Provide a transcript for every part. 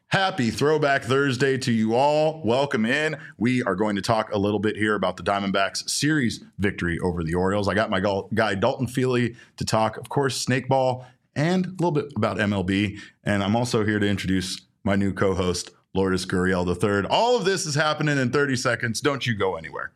Happy Throwback Thursday to you all. Welcome in. We are going to talk a little bit here about the Diamondbacks series victory over the Orioles. I got my guy Dalton Feely to talk, of course, Snakeball, and a little bit about MLB. And I'm also here to introduce my new co-host, Lourdes Gurriel III. All of this is happening in 30 seconds. Don't you go anywhere.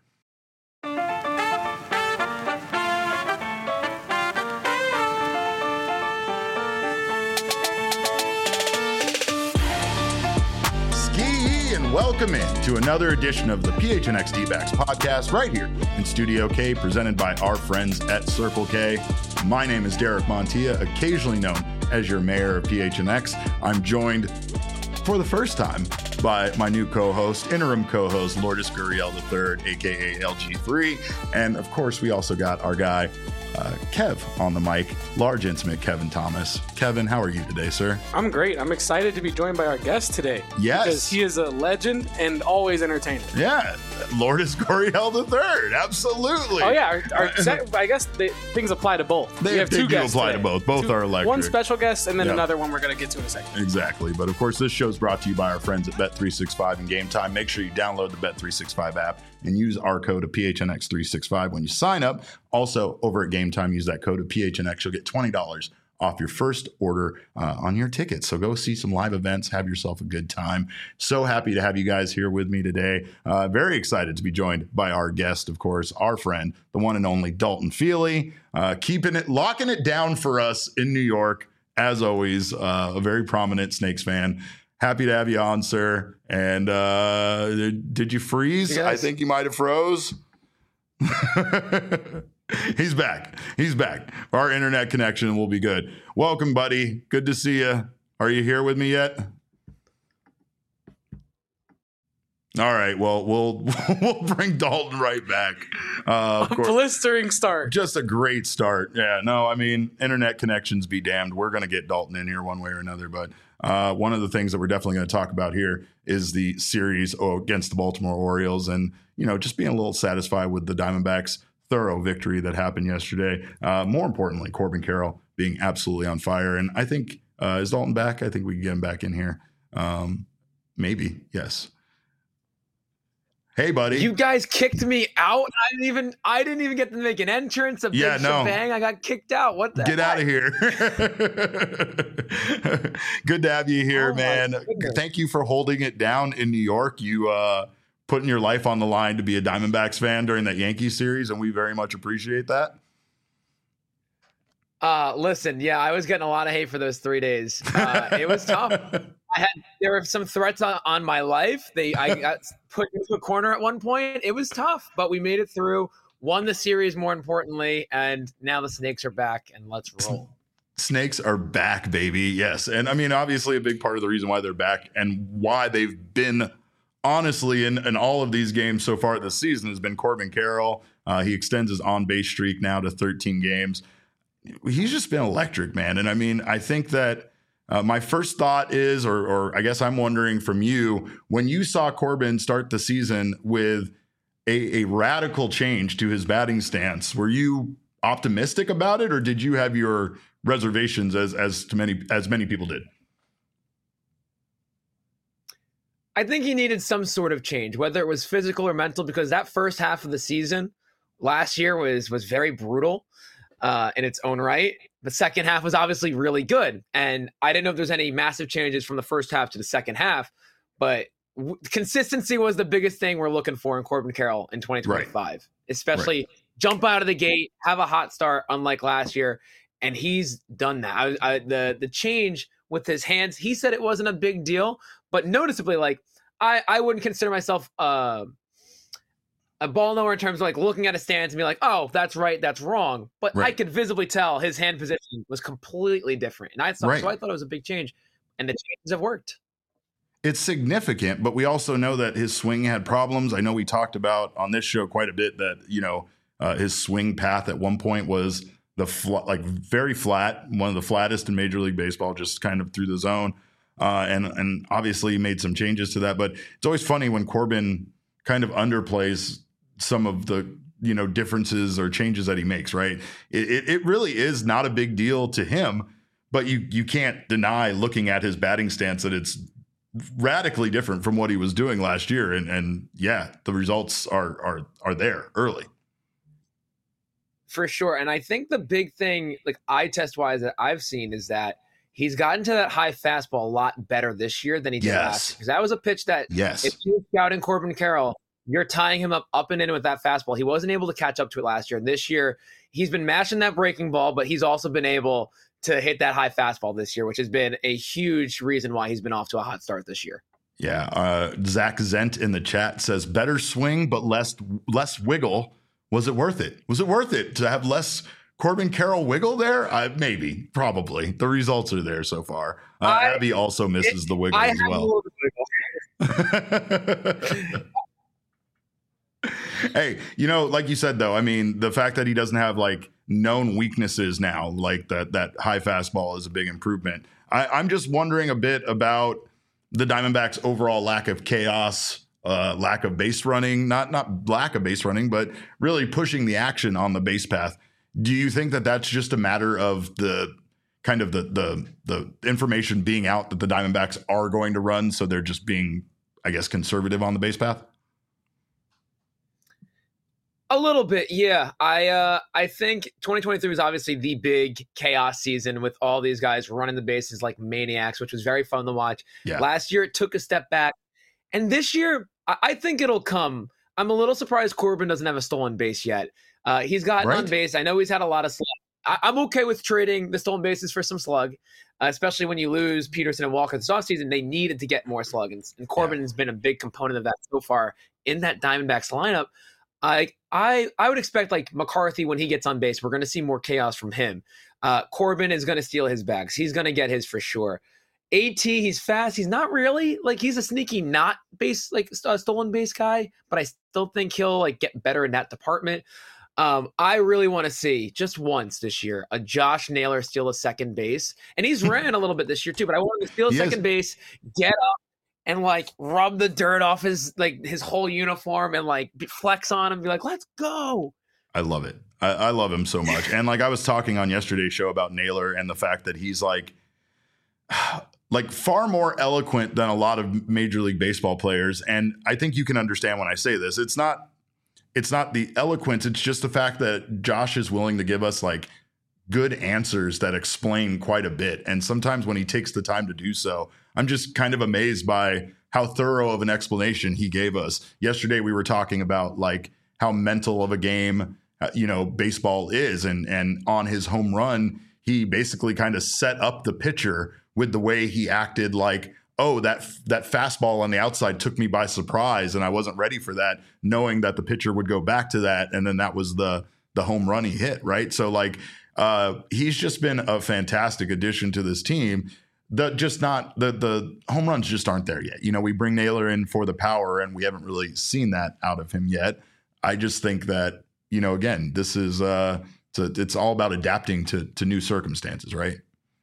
Welcome in to another edition of the PHNX D-Backs podcast right here in Studio K, presented by our friends at Circle K. My name is Derek Montilla, occasionally known as your mayor of PHNX. I'm joined for the first time by my new co-host, interim co-host, Lourdes Gurriel III, aka LG3. And of course, we also got our guy, Kev on the mic, large intimate Kevin Thomas. Kevin, how are you today, sir? I'm great. I'm excited to be joined by our guest today. Yes. Because he is a legend and always entertaining. Yeah. Lourdes Gurriel III. Absolutely. Oh, yeah. I guess things apply to both. They have two guests apply today. To both. Both are electric. One special guest and then another one we're going to get to in a second. Exactly. But of course, this show is brought to you by our friends at Bet365 and Game Time. Make sure you download the Bet365 app and use our code of PHNX365 when you sign up. Also, over at Game Time, use that code of PHNX. You'll get $20 off your first order on your ticket. So go see some live events, have yourself a good time. So happy to have you guys here with me today. Very excited to be joined by our guest, of course, our friend, the one and only Dalton Feely, locking it down for us in New York. As always, a very prominent Snakes fan. Happy to have you on, sir. And did you freeze? Yes. I think you might have froze. He's back. Our internet connection will be good. Welcome, buddy. Good to see you. Are you here with me yet? All right. Well, we'll bring Dalton right back. Of course. Blistering start. Just a great start. Yeah. No, I mean, internet connections be damned. We're going to get Dalton in here one way or another. But one of the things that we're definitely going to talk about here is the series against the Baltimore Orioles, and just being a little satisfied with the Diamondbacks' thorough victory that happened yesterday. More importantly, Corbin Carroll being absolutely on fire. And I think, is Dalton back? I think we can get him back in here. Maybe. Yes. Hey, buddy. You guys kicked me out. I didn't even get to make an entrance. Shebang. I got kicked out. What the Get heck? out of here. Good to have you here, man. Thank you for holding it down in New York. You putting your life on the line to be a Diamondbacks fan during that Yankees series, and we very much appreciate that. Listen, yeah, I was getting a lot of hate for those 3 days. It was tough. There were some threats on my life. I got put into a corner at one point. It was tough, but we made it through, won the series more importantly, and now the Snakes are back, and let's roll. Snakes are back, baby. Yes. And I mean, obviously a big part of the reason why they're back and why they've been honestly in all of these games so far this season has been Corbin Carroll. He extends his on-base streak now to 13 games. He's just been electric, man. And I mean, I think that my first thought is, or I guess I'm wondering from you, when you saw Corbin start the season with a radical change to his batting stance, were you optimistic about it, or did you have your reservations as many people did? I think he needed some sort of change, whether it was physical or mental, because that first half of the season last year was very brutal in its own right. The second half was obviously really good. And I didn't know if there's any massive changes from the first half to the second half, but consistency was the biggest thing we're looking for in Corbin Carroll in 2025, right. Especially jump out of the gate, have a hot start, unlike last year. And he's done that. The change with his hands, he said it wasn't a big deal, but noticeably, like, I wouldn't consider myself a ball knower in terms of like looking at a stance and be like, oh, that's right, that's wrong. But I could visibly tell his hand position was completely different. And so I thought it was a big change. And the changes have worked. It's significant, but we also know that his swing had problems. I know we talked about on this show quite a bit that, his swing path at one point was very flat, one of the flattest in Major League Baseball, just kind of through the zone. And obviously made some changes to that. But it's always funny when Corbin kind of underplays some of the, differences or changes that he makes, right? It really is not a big deal to him, but you can't deny looking at his batting stance that it's radically different from what he was doing last year. And yeah, the results are there early. For sure. And I think the big thing, like eye test wise, that I've seen is that he's gotten to that high fastball a lot better this year than he did last year. Because that was a pitch that if you're scouting Corbin Carroll, you're tying him up and in with that fastball. He wasn't able to catch up to it last year. This year, he's been mashing that breaking ball, but he's also been able to hit that high fastball this year, which has been a huge reason why he's been off to a hot start this year. Yeah. Zach Zent in the chat says, better swing, but less wiggle. Was it worth it? Was it worth it to have less Corbin Carroll wiggle there? Maybe, probably. The results are there so far. Abby also misses the wiggle as well. Hey, like you said, though, I mean, the fact that he doesn't have like known weaknesses now, like that high fastball is a big improvement. I'm just wondering a bit about the Diamondbacks' overall lack of chaos. Lack of base running, not lack of base running, but really pushing the action on the base path. Do you think that that's just a matter of the kind of the information being out that the Diamondbacks are going to run, so they're just being, I guess, conservative on the base path? A little bit, yeah. I think 2023 was obviously the big chaos season with all these guys running the bases like maniacs, which was very fun to watch. Yeah. Last year, it took a step back. And this year, I think it'll come. I'm a little surprised Corbin doesn't have a stolen base yet. He's gotten on base. I know he's had a lot of slug. I'm okay with trading the stolen bases for some slug, especially when you lose Peterson and Walker this offseason. They needed to get more slug, and Corbin has been a big component of that so far in that Diamondbacks lineup. I would expect like McCarthy, when he gets on base, we're going to see more chaos from him. Corbin is going to steal his bags. He's going to get his for sure. AT, he's fast. He's not really like he's a sneaky not base like stolen base guy, but I still think he'll like get better in that department. I really want to see just once this year a Josh Naylor steal a second base, and he's ran a little bit this year too. But I want him to steal a second base, get up, and like rub the dirt off his whole uniform and like flex on him, be like, "Let's go." I love it. I love him so much. And like I was talking on yesterday's show about Naylor and the fact that he's like far more eloquent than a lot of Major League Baseball players. And I think you can understand when I say this. It's not the eloquence. It's just the fact that Josh is willing to give us like good answers that explain quite a bit. And sometimes when he takes the time to do so, I'm just kind of amazed by how thorough of an explanation he gave us. Yesterday, we were talking about like how mental of a game, baseball is. And on his home run, he basically kind of set up the pitcher with the way he acted, like, oh, that fastball on the outside took me by surprise and I wasn't ready for that, knowing that the pitcher would go back to that. And then that was the home run he hit, right? So like he's just been a fantastic addition to this team. The home runs just aren't there yet. We bring Naylor in for the power and we haven't really seen that out of him yet. I just think that, again, this is it's all about adapting to new circumstances, right?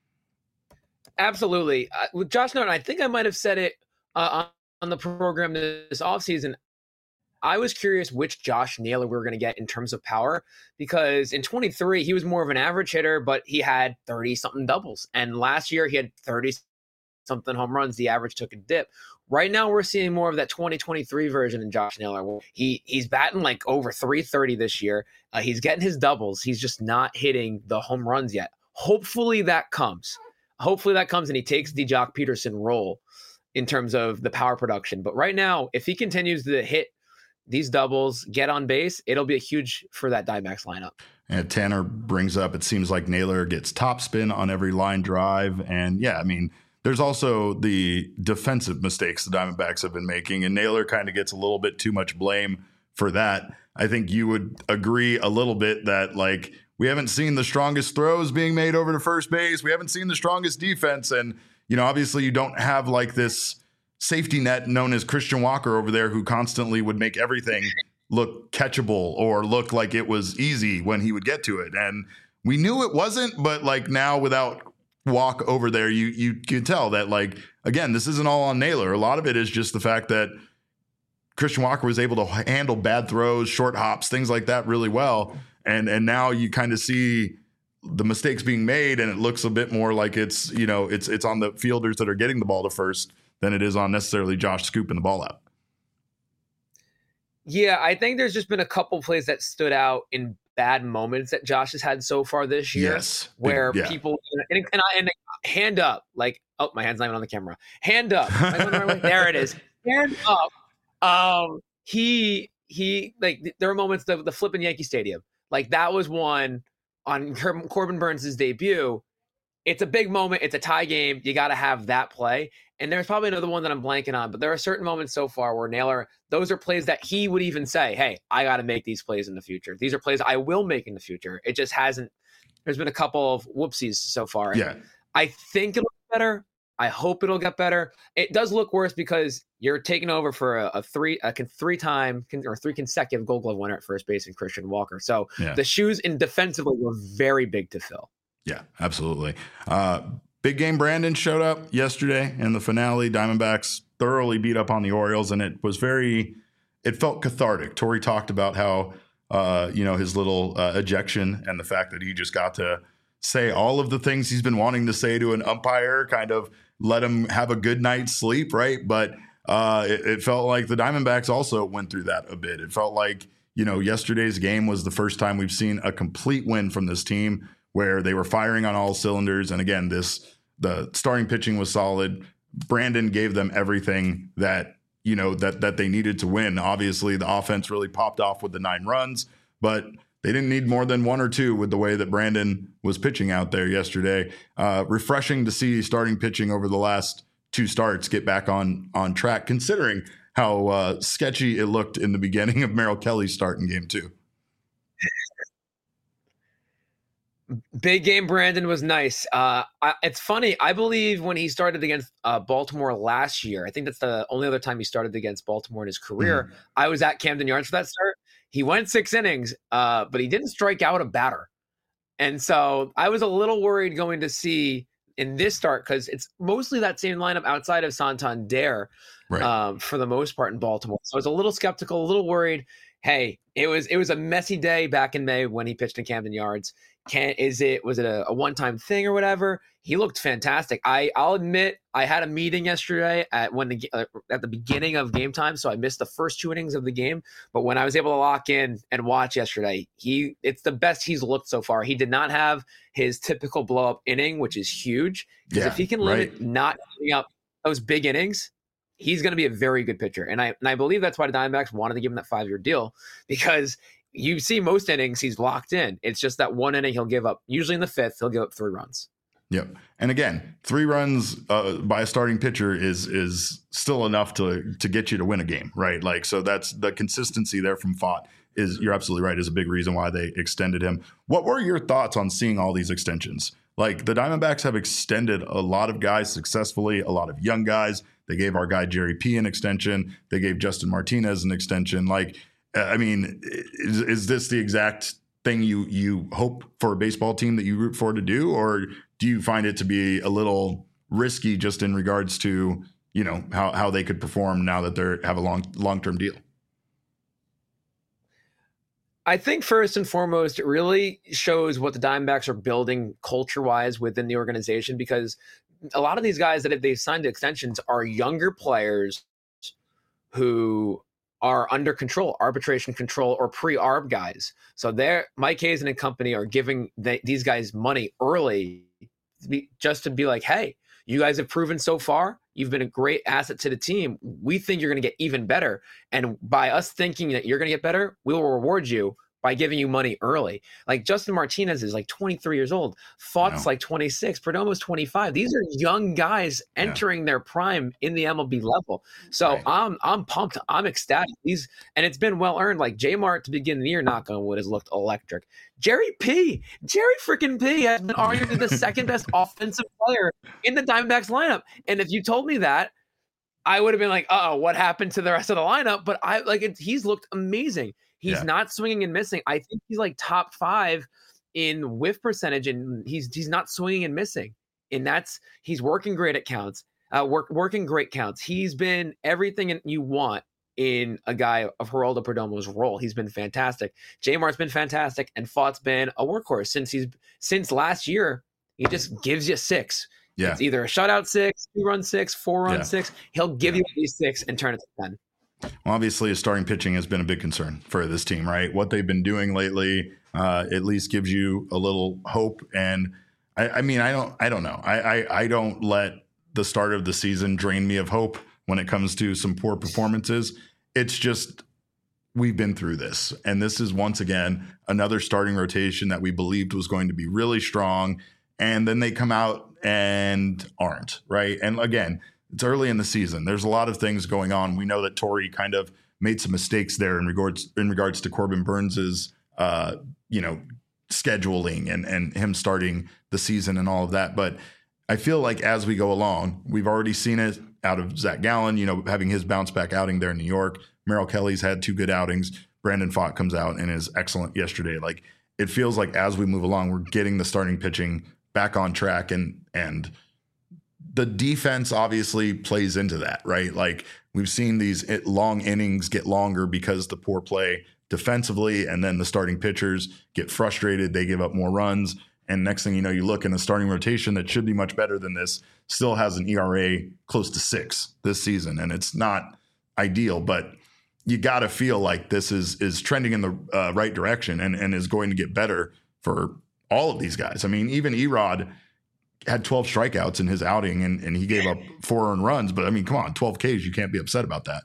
Absolutely. With Josh Norton, I think I might have said it on the program this offseason. I was curious which Josh Naylor we were going to get in terms of power, because in 23, he was more of an average hitter, but he had 30-something doubles. And last year, he had 30-something home runs. The average took a dip. Right now, we're seeing more of that 2023 version in Josh Naylor. He's batting like over 330 this year. He's getting his doubles. He's just not hitting the home runs yet. Hopefully that comes. And he takes the Jock Peterson role in terms of the power production. But right now, if he continues to hit these doubles, get on base, it'll be a huge for that Diamondbacks lineup. And Tanner brings up, it seems like Naylor gets topspin on every line drive. And yeah, I mean, there's also the defensive mistakes the Diamondbacks have been making, and Naylor kind of gets a little bit too much blame for that. I think you would agree a little bit that like we haven't seen the strongest throws being made over to first base. We haven't seen the strongest defense. And, obviously you don't have like this safety net known as Christian Walker over there who constantly would make everything look catchable or look like it was easy when he would get to it. And we knew it wasn't, but like now without Walk over there, you can tell that like, again, this isn't all on Naylor. A lot of it is just the fact that Christian Walker was able to handle bad throws, short hops, things like that really well. And now you kind of see the mistakes being made, and it looks a bit more like it's on the fielders that are getting the ball to first than it is on necessarily Josh scooping the ball out. Yeah, I think there's just been a couple plays that stood out in bad moments that Josh has had so far this year. Yes. Where people and hand up, like, oh, my hand's not even on the camera. Hand up. There it is. Hand up. He like, there are moments, the flip in Yankee Stadium. Like, that was one on Corbin Burns' debut. It's a big moment. It's a tie game. You got to have that play. And there's probably another one that I'm blanking on, but there are certain moments so far where Naylor, those are plays that he would even say, hey, I got to make these plays in the future. These are plays I will make in the future. It just hasn't. There's been a couple of whoopsies so far. Yeah. I think it'll get better. I hope it'll get better. It does look worse because you're taking over for three consecutive Gold Glove winner at first base in Christian Walker. So the shoes in defensively were very big to fill. Yeah, absolutely. Big Game Brandon showed up yesterday in the finale. Diamondbacks thoroughly beat up on the Orioles, and it felt cathartic. Torey talked about how, his little ejection and the fact that he just got to say all of the things he's been wanting to say to an umpire, kind of let him have a good night's sleep, right? But it felt like the Diamondbacks also went through that a bit. It felt like, yesterday's game was the first time we've seen a complete win from this team, where they were firing on all cylinders. And again, the starting pitching was solid. Brandon gave them everything that they needed to win. Obviously, the offense really popped off with the 9 runs, but they didn't need more than 1 or 2 with the way that Brandon was pitching out there yesterday. Refreshing to see starting pitching over the last 2 starts get back on track, considering how sketchy it looked in the beginning of Merrill Kelly's start in game 2. Big Game Brandon was nice. It's funny. I believe when he started against Baltimore last year, I think that's the only other time he started against Baltimore in his career. I was at Camden Yards for that start. He went 6 innings, but he didn't strike out a batter. And so I was a little worried going to see in this start, because it's mostly that same lineup outside of Santander, right, for the most part in Baltimore. So I was a little skeptical, a little worried. Hey, it was a messy day back in May when he pitched in Camden Yards. Was it a one-time thing or whatever? He looked fantastic. I'll admit I had a meeting yesterday at the beginning of game time, so I missed the first 2 innings of the game. But when I was able to lock in and watch yesterday, it's the best he's looked so far. He did not have his typical blow-up inning, which is huge. Because if he can limit not giving up those big innings, he's going to be a very good pitcher. And I believe that's why the Diamondbacks wanted to give him that 5-year deal, because you see most innings he's locked in. It's just that 1 inning he'll give up. Usually in the 5th, he'll give up 3 runs. Yep. And again, 3 runs by a starting pitcher is still enough to get you to win a game, right? Like, so that's the consistency there from Pfaadt you're absolutely right, is a big reason why they extended him. What were your thoughts on seeing all these extensions? Like, the Diamondbacks have extended a lot of guys successfully, a lot of young guys. They gave our guy Jerry P an extension. They gave Justin Martinez an extension. Like, I mean, is this the exact thing you hope for a baseball team that you root for to do? Or do you find it to be a little risky just in regards to, how they could perform now that they have a long-term deal? I think first and foremost, it really shows what the Diamondbacks are building culture-wise within the organization, because a lot of these guys that they've signed to extensions are younger players who are under control, arbitration control, or pre-arb guys. So Mike Hazen and company are giving these guys money early just to be like, hey, you guys have proven so far, you've been a great asset to the team. We think you're going to get even better. And by us thinking that you're going to get better, we will reward you by giving you money early. Like Justin Martinez is like 23 years old. Pfaadt's like 26. Perdomo's 25. These are young guys entering their prime in the MLB level. So I'm pumped. I'm ecstatic. And it's been well earned. Like J-Mart to begin the year, knock on wood, has looked electric. Jerry freaking P has been arguably the second best offensive player in the Diamondbacks lineup. And if you told me that, I would have been like, what happened to the rest of the lineup? But he's looked amazing. He's not swinging and missing. I think he's like top 5 in whiff percentage, and he's not swinging and missing. And he's working great at counts, working great counts. He's been everything you want in a guy of Geraldo Perdomo's role. He's been fantastic. Jamar's been fantastic, and Fought's been a workhorse since last year. He just gives you 6. Yeah. It's either a shutout 6, 2-run 6, 4-run 6. He'll give you at least 6 and turn it to 10. Well, obviously, his starting pitching has been a big concern for this team, right? What they've been doing lately at least gives you a little hope. And I don't know. I don't let the start of the season drain me of hope when it comes to some poor performances. It's just we've been through this. And this is, once again, another starting rotation that we believed was going to be really strong. And then they come out and aren't, right? And again, it's early in the season. There's a lot of things going on. We know that Torey kind of made some mistakes there in regards to Corbin Burns's, scheduling and him starting the season and all of that. But I feel like as we go along, we've already seen it out of Zach Gallen, having his bounce back outing there in New York. Merrill Kelly's had 2 good outings. Brandon Pfaadt comes out and is excellent yesterday. Like, it feels like as we move along, we're getting the starting pitching back on track, and the defense obviously plays into that, right? Like, we've seen these long innings get longer because the poor play defensively, and then the starting pitchers get frustrated. They give up more runs. And next thing you know, you look in a starting rotation that should be much better than this, still has an ERA close to 6 this season. And it's not ideal, but you got to feel like this is trending in the right direction and is going to get better for all of these guys. I mean, even Erod had 12 strikeouts in his outing and he gave up 4 earned runs. But I mean, come on, 12 Ks, you can't be upset about that.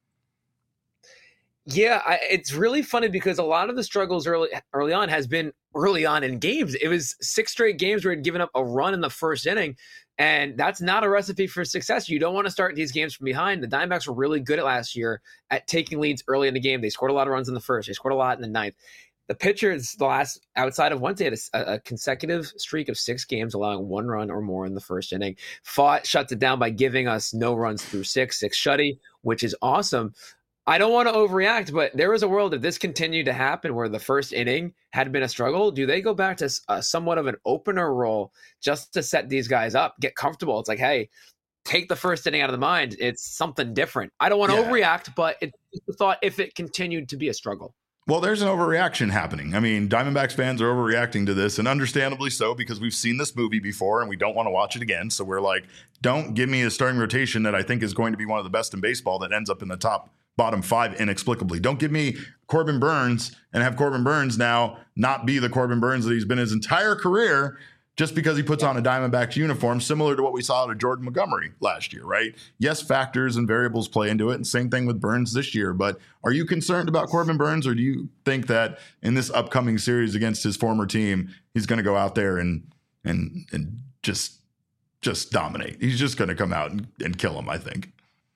Yeah, it's really funny because a lot of the struggles early on has been early on in games. It was 6 straight games where he'd given up a run in the first inning, and that's not a recipe for success. You don't want to start these games from behind. The Diamondbacks were really good at last year at taking leads early in the game. They scored a lot of runs in the first. They scored a lot in the ninth. The pitchers, outside of Wednesday, had a consecutive streak of 6 games, allowing 1 run or more in the first inning. Pfaadt shuts it down by giving us no runs through 6 shutty, which is awesome. I don't want to overreact, but there was a world if this continued to happen where the first inning had been a struggle. Do they go back to somewhat of an opener role just to set these guys up, get comfortable? It's like, hey, take the first inning out of the mind. It's something different. I don't want to overreact, but it's the thought if it continued to be a struggle. Well, there's an overreaction happening. I mean, Diamondbacks fans are overreacting to this, and understandably so, because we've seen this movie before and we don't want to watch it again. So we're like, don't give me a starting rotation that I think is going to be one of the best in baseball that ends up in the bottom 5 inexplicably. Don't give me Corbin Burns and have Corbin Burns now not be the Corbin Burns that he's been his entire career just because he puts on a Diamondbacks uniform, similar to what we saw out of Jordan Montgomery last year, right? Yes, factors and variables play into it, and same thing with Burns this year. But are you concerned about Corbin Burns, or do you think that in this upcoming series against his former team, he's going to go out there and just dominate? He's just going to come out and kill him, I think.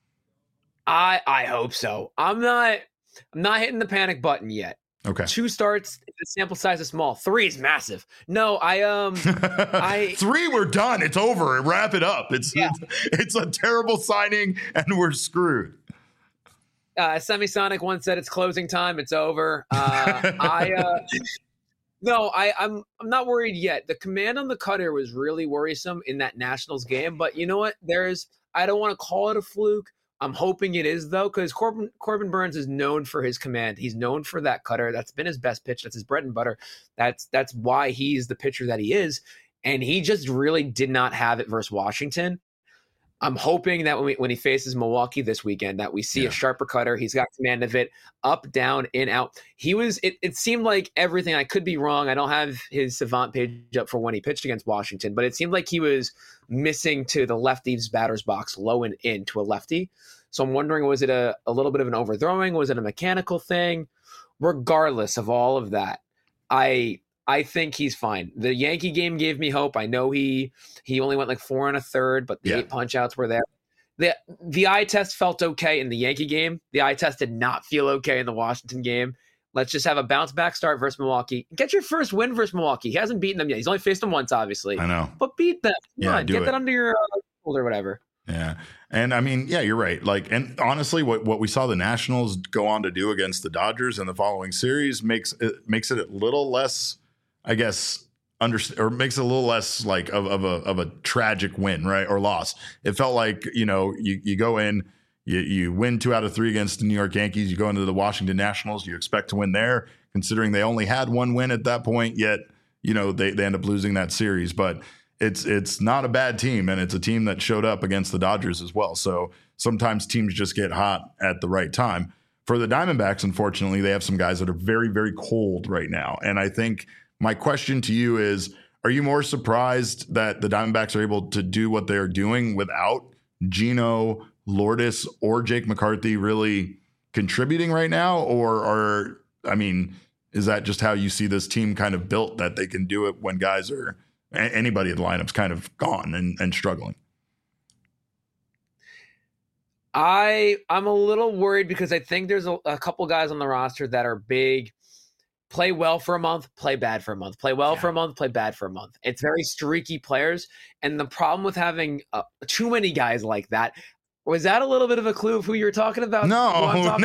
I hope so. I'm not hitting the panic button yet. Okay. 2 starts, the sample size is small. 3 is massive. No, 3, we're done. It's over. Wrap it up. It's a terrible signing and we're screwed. Semisonic once said it's closing time. It's over. No, I'm not worried yet. The command on the cutter was really worrisome in that Nationals game, but you know what? I don't want to call it a fluke. I'm hoping it is, though, because Corbin Burns is known for his command. He's known for that cutter. That's been his best pitch. That's his bread and butter. That's why he's the pitcher that he is. And he just really did not have it versus Washington. I'm hoping that when he faces Milwaukee this weekend, that we see a sharper cutter. He's got command of it, up, down, in, out. It seemed like everything. I could be wrong. I don't have his Savant page up for when he pitched against Washington, but it seemed like he was missing to the lefty's batter's box, low and in to a lefty. So I'm wondering, was it a little bit of an overthrowing? Was it a mechanical thing? Regardless of all of that, I think he's fine. The Yankee game gave me hope. I know he only went like 4 1/3, but the 8 punch outs were there. The eye test felt okay in the Yankee game. The eye test did not feel okay in the Washington game. Let's just have a bounce back start versus Milwaukee. Get your first win versus Milwaukee. He hasn't beaten them yet. He's only faced them once, obviously. I know. But beat them. Come on, get that under your shoulder or whatever. Yeah. And I mean, yeah, you're right. Like, and honestly, what we saw the Nationals go on to do against the Dodgers in the following series makes it a little less, I guess, or makes it a little less like of a tragic win, right? Or loss. It felt like, you go in, You win 2 out of 3 against the New York Yankees. You go into the Washington Nationals. You expect to win there, considering they only had 1 win at that point. Yet, they end up losing that series. But it's not a bad team, and it's a team that showed up against the Dodgers as well. So sometimes teams just get hot at the right time. For the Diamondbacks, unfortunately, they have some guys that are very, very cold right now. And I think my question to you is, are you more surprised that the Diamondbacks are able to do what they're doing without Gino, Lourdes, or Jake McCarthy really contributing right now? Or is that just how you see this team kind of built, that they can do it when guys are, anybody in the lineup's kind of gone and struggling? I'm a little worried because I think there's a couple guys on the roster that are big, play well for a month, play bad for a month, play well for a month, play bad for a month. It's very streaky players. And the problem with having too many guys like that, was that a little bit of a clue of who you were talking about? No. I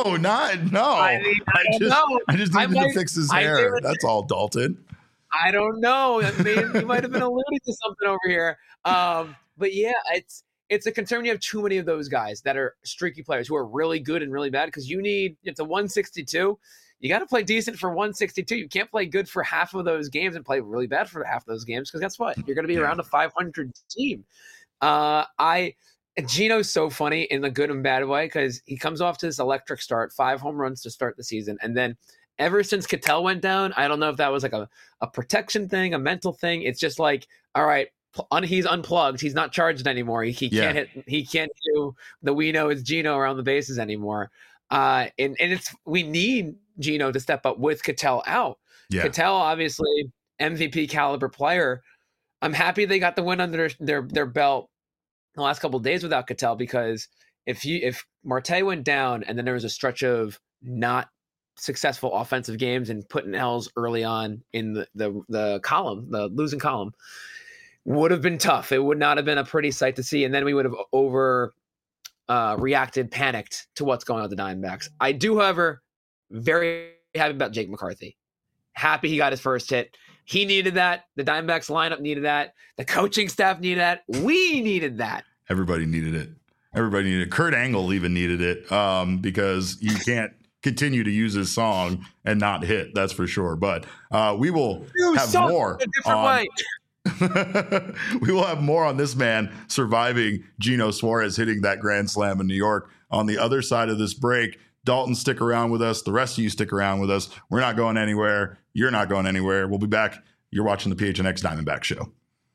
just needed to fix his hair. That's all, Dalton. I don't know. You might have been alluding to something over here. But yeah, it's a concern. You have too many of those guys that are streaky players who are really good and really bad, because it's a 162. You got to play decent for 162. You can't play good for half of those games and play really bad for half of those games, because guess what? You're going to be around a 500 team. Gino's so funny in the good and bad way, because he comes off to this electric start, 5 home runs to start the season. And then ever since Ketel went down, I don't know if that was like a protection thing, a mental thing. It's just like, all right, he's unplugged. He's not charged anymore. He can't hit. He can't do the we know it's Gino around the bases anymore. And we need Gino to step up with Ketel out. Yeah. Ketel, obviously MVP caliber player. I'm happy they got the win under their belt the last couple of days without Ketel, because if Marte went down and then there was a stretch of not successful offensive games and putting L's early on in the column, the losing column, would have been tough. It would not have been a pretty sight to see. And then we would have reacted, panicked to what's going on with the Diamondbacks. I do, however, very happy about Jake McCarthy. Happy he got his first hit. He needed that. The Diamondbacks lineup needed that. The coaching staff needed that. We needed that. Everybody needed it. Kurt Angle even needed it, because you can't continue to use his song and not hit. That's for sure. But we will have more. A different way. We will have more on this man surviving Gino Suarez hitting that grand slam in New York on the other side of this break. Dalton, stick around with us. The rest of you stick around with us. We're not going anywhere. You're not going anywhere. We'll be back. You're watching the PHNX Diamondback Show.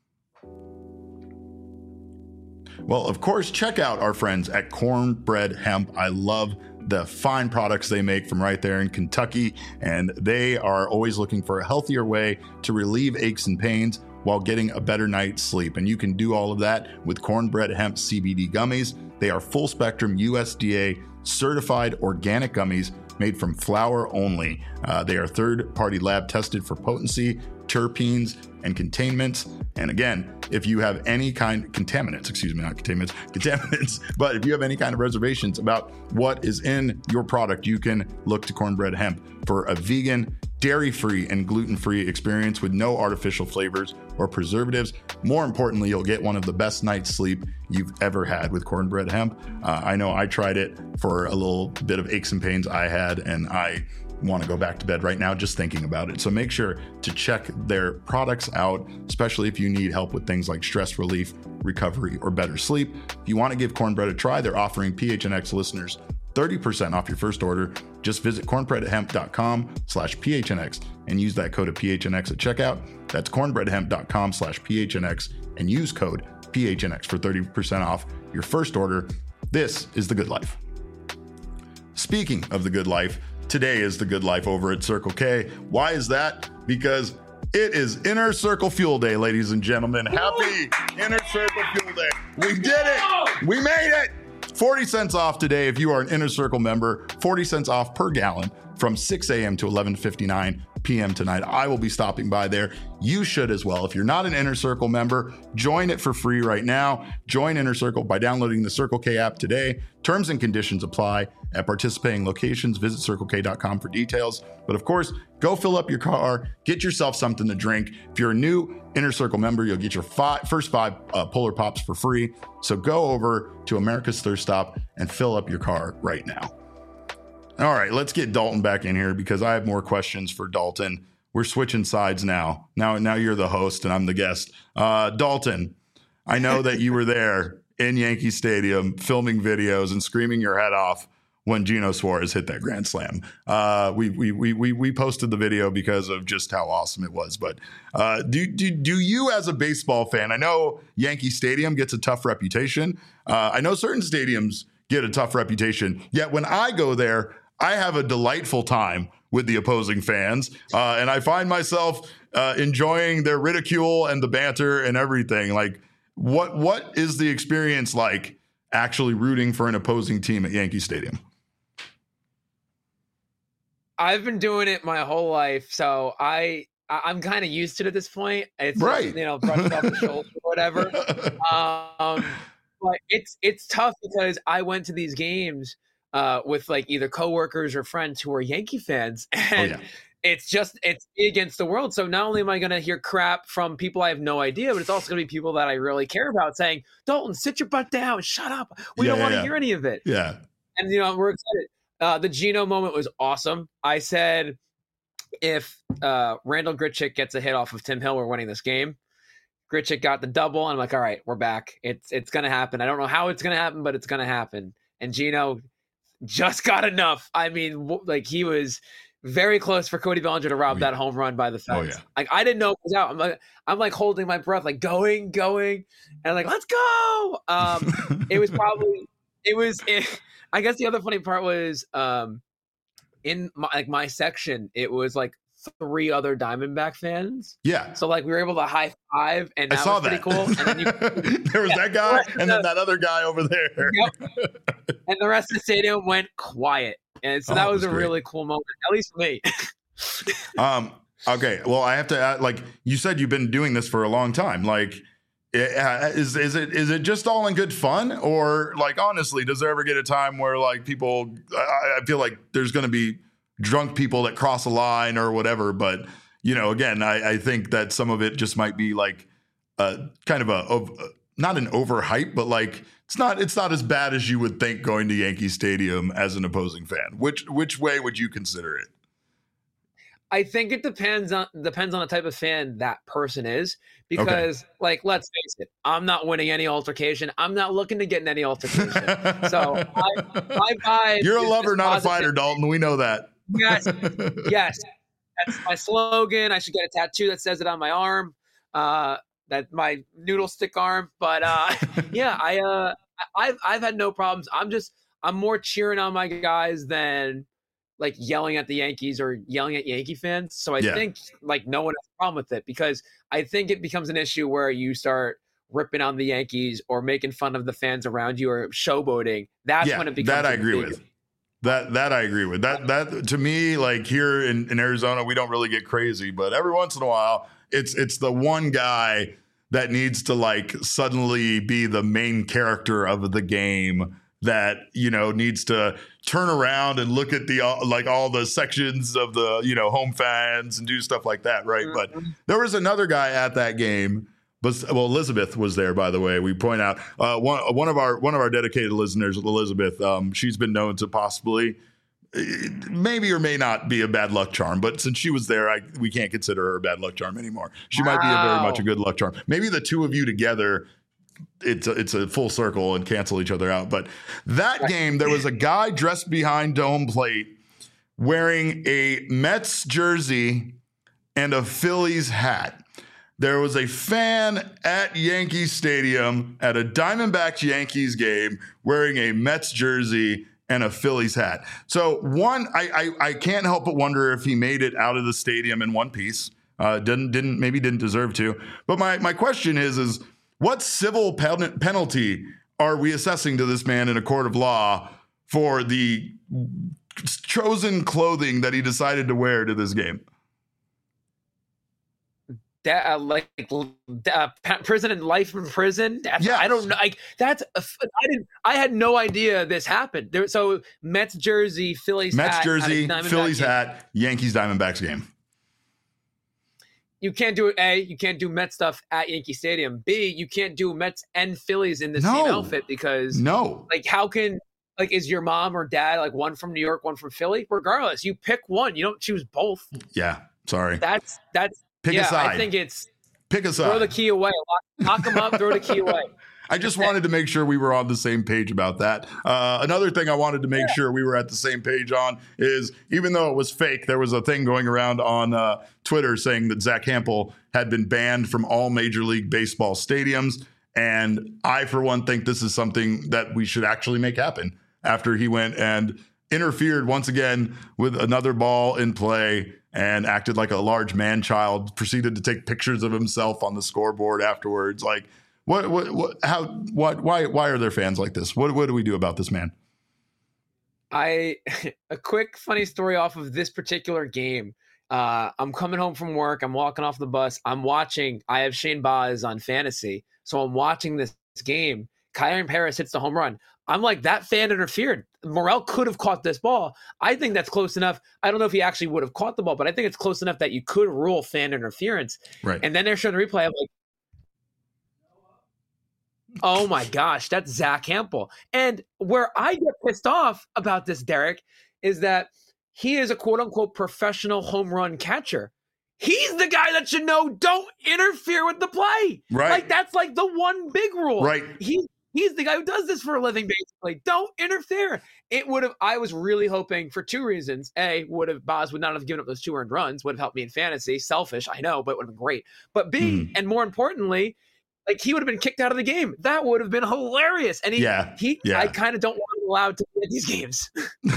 Well, of course, check out our friends at Cornbread Hemp. I love the fine products they make from right there in Kentucky, and they are always looking for a healthier way to relieve aches and pains while getting a better night's sleep. And you can do all of that with Cornbread Hemp CBD gummies. They are full spectrum USDA certified organic gummies made from flower only. They are third-party lab tested for potency, terpenes, and containments. And again, if you have any kind contaminants, but if you have any kind of reservations about what is in your product, you can look to Cornbread Hemp for a vegan, dairy-free, and gluten-free experience with no artificial flavors or preservatives. More importantly, you'll get one of the best night's sleep you've ever had with Cornbread Hemp. I know I tried it for a little bit of aches and pains I had, and I want to go back to bed right now just thinking about it. So make sure to check their products out, especially if you need help with things like stress relief, recovery, or better sleep. If you want to give Cornbread a try, they're offering PHNX listeners 30% off your first order. Just visit cornbreadhemp.com/PHNX and use that code of PHNX at checkout. That's cornbreadhemp.com/PHNX and use code PHNX for 30% off your first order. This is The Good Life. Speaking of The Good Life, today is The Good Life over at Circle K. Why is that? Because it is Inner Circle Fuel Day, ladies and gentlemen. Happy Inner Circle Fuel Day. We did it. We made it. 40 cents off today if you are an Inner Circle member. 40 cents off per gallon from 6 a.m. to 11:59 p.m. tonight. I will be stopping by there. You should as well. If you're not an Inner Circle member, join it for free right now. Join Inner Circle by downloading the Circle K app today. Terms and conditions apply at participating locations. Visit CircleK.com for details. But of course, go fill up your car, get yourself something to drink. If you're a new Inner Circle member, you'll get your first five Polar Pops for free. So go over to America's Thirst Stop and fill up your car right now. All right, let's get Dalton back in here because I have more questions for Dalton. We're switching sides now. Now you're the host and I'm the guest. Dalton, I know that you were there in Yankee Stadium filming videos and screaming your head off when Geno Suarez hit that grand slam. We posted the video because of just how awesome it was. But do you as a baseball fan, I know Yankee Stadium gets a tough reputation. I know certain stadiums get a tough reputation. Yet when I go there, I have a delightful time with the opposing fans. And I find myself enjoying their ridicule and the banter and everything. Like, what is the experience like actually rooting for an opposing team at Yankee Stadium? I've been doing it my whole life, so I'm kind of used to it at this point. It's right, just, brushed off the shoulder or whatever. But it's tough because I went to these games with like either coworkers or friends who are Yankee fans, and it's me against the world. So not only am I going to hear crap from people I have no idea, but it's also going to be people that I really care about saying, "Dalton, sit your butt down, shut up. We don't want to hear any of it." Yeah, and we're excited. The Geno moment was awesome. I said, if Randall Grichuk gets a hit off of Tim Hill, we're winning this game. Grichuk got the double, and I'm like, all right, we're back. It's going to happen. I don't know how it's going to happen, but it's going to happen. And Geno just got enough. I mean, like, he was very close for Cody Bellinger to rob that home run by the fence. Like, I didn't know it was out. I'm like holding my breath, like going, and I'm like, let's go. I guess the other funny part was in my section, it was like 3 other Diamondback fans. Yeah. So like we were able to high five, and that was pretty cool. And then there was that guy and then that other guy over there. Yep. And the rest of the stadium went quiet. And so that was a really cool moment, at least for me. Okay. Well, I have to add, like you said, you've been doing this for a long time. Like, is it just all in good fun, or like honestly, does there ever get a time where like people? I feel like there's going to be drunk people that cross a line or whatever, but again, I think that some of it just might be like kind of not an overhype, but like it's not as bad as you would think going to Yankee Stadium as an opposing fan. Which way would you consider it? I think it depends on the type of fan that person is, because like, let's face it, I'm not winning any altercation. I'm not looking to get in any altercation. So my vibe. You're a lover, not a fighter, Dalton. We know that. Yes. That's my slogan. I should get a tattoo that says it on my arm. That my noodle stick arm. But I've had no problems. I'm more cheering on my guys than like yelling at the Yankees or yelling at Yankee fans. So I think like no one has a problem with it, because I think it becomes an issue where you start ripping on the Yankees or making fun of the fans around you or showboating. That's when it becomes that I agree with. That I agree with. That to me, like here in Arizona, we don't really get crazy, but every once in a while, it's the one guy that needs to like suddenly be the main character of the game that needs to turn around and look at the like all the sections of the home fans and do stuff like that, right? Mm-hmm. But there was another guy at that game. Well, Elizabeth was there, by the way. We point out one of our dedicated listeners, Elizabeth. She's been known to possibly, maybe or may not be a bad luck charm, but since she was there, we can't consider her a bad luck charm anymore. She might be very much a good luck charm. Maybe the two of you together, it's a full circle and cancel each other out. But that game, there was a guy dressed behind home plate wearing a Mets jersey and a Phillies hat. There was a fan at Yankee Stadium at a Diamondbacks Yankees game wearing a Mets jersey and a Phillies hat. So I can't help but wonder if he made it out of the stadium in one piece. Didn't deserve to. But my question is what civil penalty are we assessing to this man in a court of law for the chosen clothing that he decided to wear to this game? prison and life in prison. Yes. I don't know. I had no idea this happened. So Mets jersey, Phillies hat, Phillies hat, Yankees Diamondbacks game. You can't do it. A, you can't do Mets stuff at Yankee Stadium. B, you can't do Mets and Phillies in the same outfit because how can is your mom or dad one from New York, one from Philly? Regardless, you pick one. You don't choose both. Yeah, sorry. That's pick a side. I think it's pick a side. Throw the key away. Lock them up. Throw the key away. I just wanted to make sure we were on the same page about that. Another thing I wanted to make sure we were at the same page on is, even though it was fake, there was a thing going around on Twitter saying that Zack Hample had been banned from all Major League Baseball stadiums. And I, for one, think this is something that we should actually make happen after he went and interfered once again with another ball in play and acted like a large man-child, proceeded to take pictures of himself on the scoreboard afterwards. Why are there fans like this? What do we do about this man? A quick funny story off of this particular game. I'm coming home from work. I'm walking off the bus. I have Shane Baz on fantasy. So I'm watching this game. Kyler Paris hits the home run. I'm like, that fan interfered. Morel could have caught this ball. I think that's close enough. I don't know if he actually would have caught the ball, but I think it's close enough that you could rule fan interference. Right. And then they're showing the replay. I'm like, oh my gosh, that's Zack Hample. And where I get pissed off about this, Derek, is that he is a quote unquote professional home run catcher. He's the guy that should know, don't interfere with the play. Right. That's the one big rule. Right. He's the guy who does this for a living, basically. Don't interfere. I was really hoping for two reasons. A, Baz would not have given up those 2 earned runs, would have helped me in fantasy. Selfish, I know, but it would have been great. But B, and more importantly, he would have been kicked out of the game. That would have been hilarious. And I kind of don't want him allowed to play these games.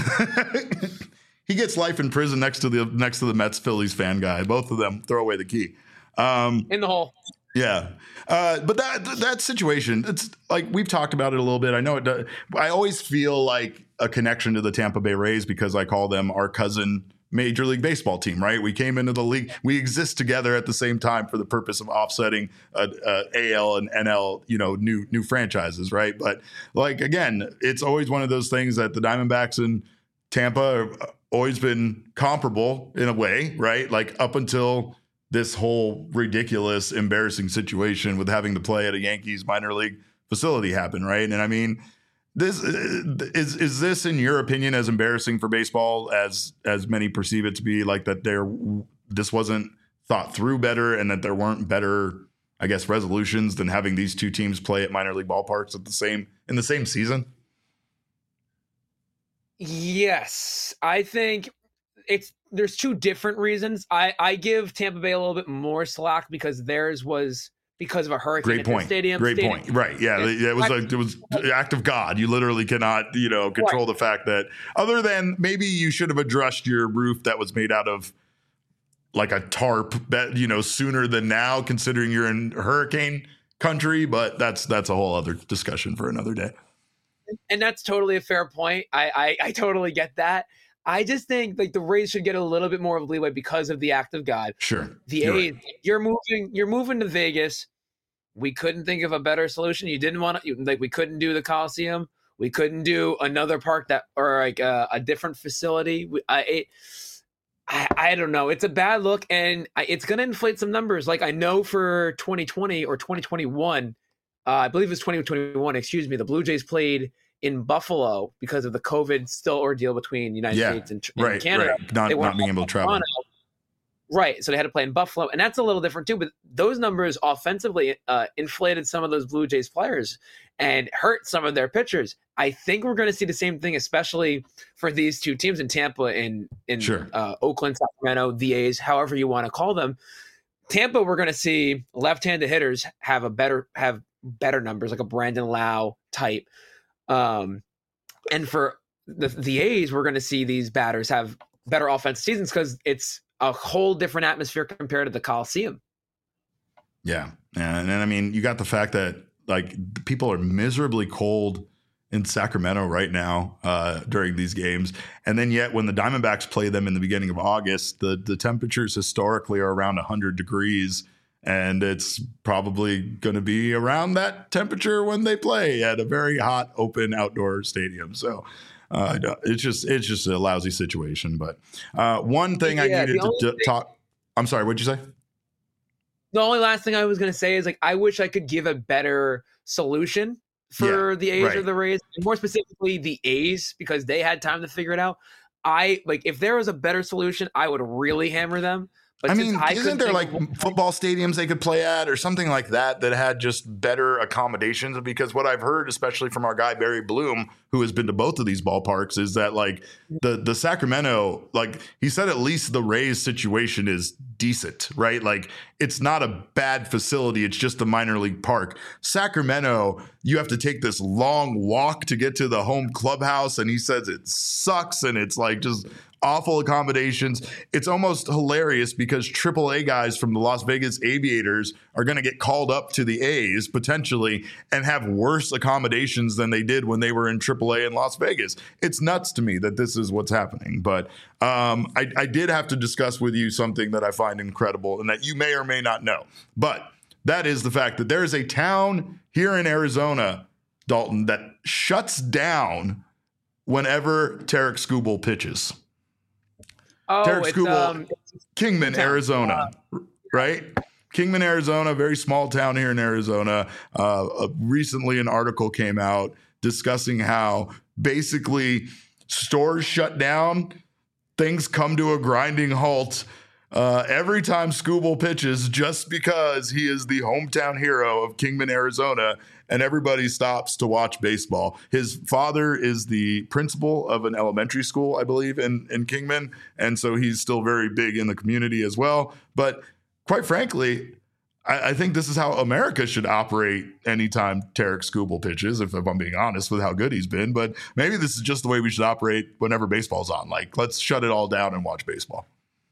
He gets life in prison next to the Mets Phillies fan guy. Both of them throw away the key. In the hole. Yeah. But that situation, it's we've talked about it a little bit. I know it does. I always feel like a connection to the Tampa Bay Rays because I call them our cousin Major League Baseball team, right? We came into the league. We exist together at the same time for the purpose of offsetting AL and NL, new franchises, right? But again, it's always one of those things that the Diamondbacks and Tampa have always been comparable in a way, right? Up until this whole ridiculous, embarrassing situation with having to play at a Yankees minor league facility happen, right? And I mean, this is this, in your opinion, as embarrassing for baseball as many perceive it to be? That this wasn't thought through better, and that there weren't better, I guess, resolutions than having these two teams play at minor league ballparks in the same season? Yes, I think there's 2 different reasons. I give Tampa Bay a little bit more slack because theirs was because of a hurricane at the stadium. Great point. Right. Yeah. It was an act of God. You literally cannot, control the fact that, other than maybe you should have addressed your roof that was made out of a tarp sooner than now, considering you're in hurricane country. But that's a whole other discussion for another day. And that's totally a fair point. I totally get that. I just think the Rays should get a little bit more of leeway because of the act of God. Sure. The A's, right. You're moving to Vegas. We couldn't think of a better solution. You didn't want to, we couldn't do the Coliseum. We couldn't do another park or a different facility. I don't know. It's a bad look, and it's going to inflate some numbers. I know for 2020 or 2021, I believe it was 2021, the Blue Jays played in Buffalo because of the COVID still ordeal between the United States and Canada. Right. Not being able to travel. Right. So they had to play in Buffalo. And that's a little different too. But those numbers offensively inflated some of those Blue Jays players and hurt some of their pitchers. I think we're going to see the same thing, especially for these two teams in Tampa and in Oakland, Sacramento, the A's, however you want to call them. Tampa, we're going to see left-handed hitters have better numbers, like a Brandon Lau type. And for the A's, we're going to see these batters have better offensive seasons because it's a whole different atmosphere compared to the Coliseum. Yeah. And I mean, you got the fact that people are miserably cold in Sacramento right now during these games. And then yet when the Diamondbacks play them in the beginning of August, the temperatures historically are around 100 degrees. And it's probably going to be around that temperature when they play at a very hot, open outdoor stadium. So it's just a lousy situation. But one thing I needed to talk. I'm sorry, what'd you say? The only last thing I was going to say is, like, I wish I could give a better solution for the A's or the Rays, and more specifically the A's, because they had time to figure it out. If there was a better solution, I would really hammer them. But I mean, isn't there like football stadiums they could play at or something like that had just better accommodations? Because what I've heard, especially from our guy Barry Bloom, who has been to both of these ballparks, is that like the Sacramento, like he said, at least the Rays situation is decent, right? Like it's not a bad facility. It's just a minor league park. Sacramento, you have to take this long walk to get to the home clubhouse. And he says it sucks. And it's like just awful accommodations. It's almost hilarious because AAA guys from the Las Vegas Aviators are going to get called up to the A's potentially and have worse accommodations than they did when they were in AAA in Las Vegas. It's nuts to me that this is what's happening. But I did have to discuss with you something that I find incredible and that you may or may not know. But that is the fact that there is a town here in Arizona, Dalton, that shuts down whenever Tarik Skubal pitches. Tarik Skubal, Kingman, Arizona, right? Kingman, Arizona, very small town here in Arizona. Recently, an article came out discussing how basically stores shut down, things come to a grinding halt every time Skubal pitches, just because he is the hometown hero of Kingman, Arizona, and everybody stops to watch baseball. His father is the principal of an elementary school, I believe, in Kingman, and so he's still very big in the community as well. But quite frankly, I think this is how America should operate anytime Tarik Skubal pitches, if I'm being honest with how good he's been. But maybe this is just the way we should operate whenever baseball's on. Like, let's shut it all down and watch baseball.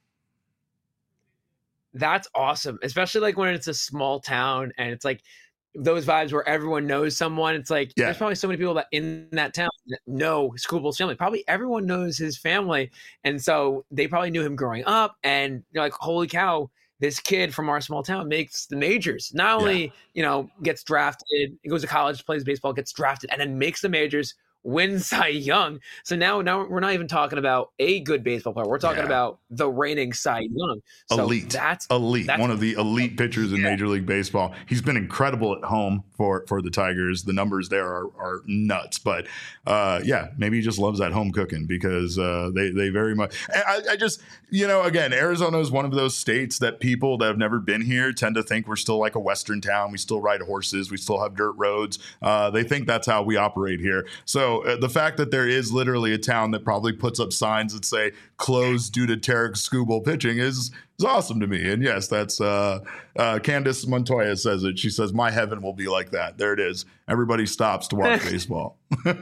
That's awesome, especially like when it's a small town and it's like those vibes where everyone knows someone. It's like there's probably so many people that in that town that know Skubal's family. Probably everyone knows his family, and so they probably knew him growing up. And you're like, holy cow, this kid from our small town makes the majors. Not only gets drafted, he goes to college, plays baseball, gets drafted, and then makes the majors. Wins Cy Young. So now we're not even talking about a good baseball player. We're talking about the reigning Cy Young. So elite. That's one of the elite pitchers in Major League Baseball. He's been incredible at home for the Tigers. The numbers there are nuts. But maybe he just loves that home cooking because they very much. I just, again, Arizona is one of those states that people that have never been here tend to think we're still like a Western town. We still ride horses. We still have dirt roads. They think that's how we operate here. So the fact that there is literally a town that probably puts up signs that say closed due to Tarik Skubal pitching is awesome to me. And yes, that's Candace Montoya says it. She says, my heaven will be like that. There it is. Everybody stops to watch baseball.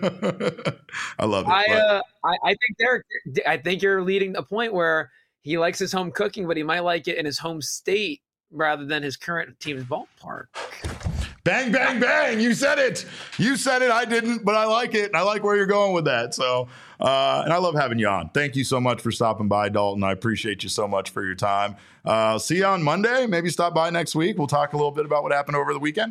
I love it. I think you're leading a point where he likes his home cooking, but he might like it in his home state rather than his current team's ballpark. Bang, bang, bang. You said it. I didn't, but I like it. And I like where you're going with that. So, and I love having you on. Thank you so much for stopping by, Dalton. I appreciate you so much for your time. See you on Monday. Maybe stop by next week. We'll talk a little bit about what happened over the weekend.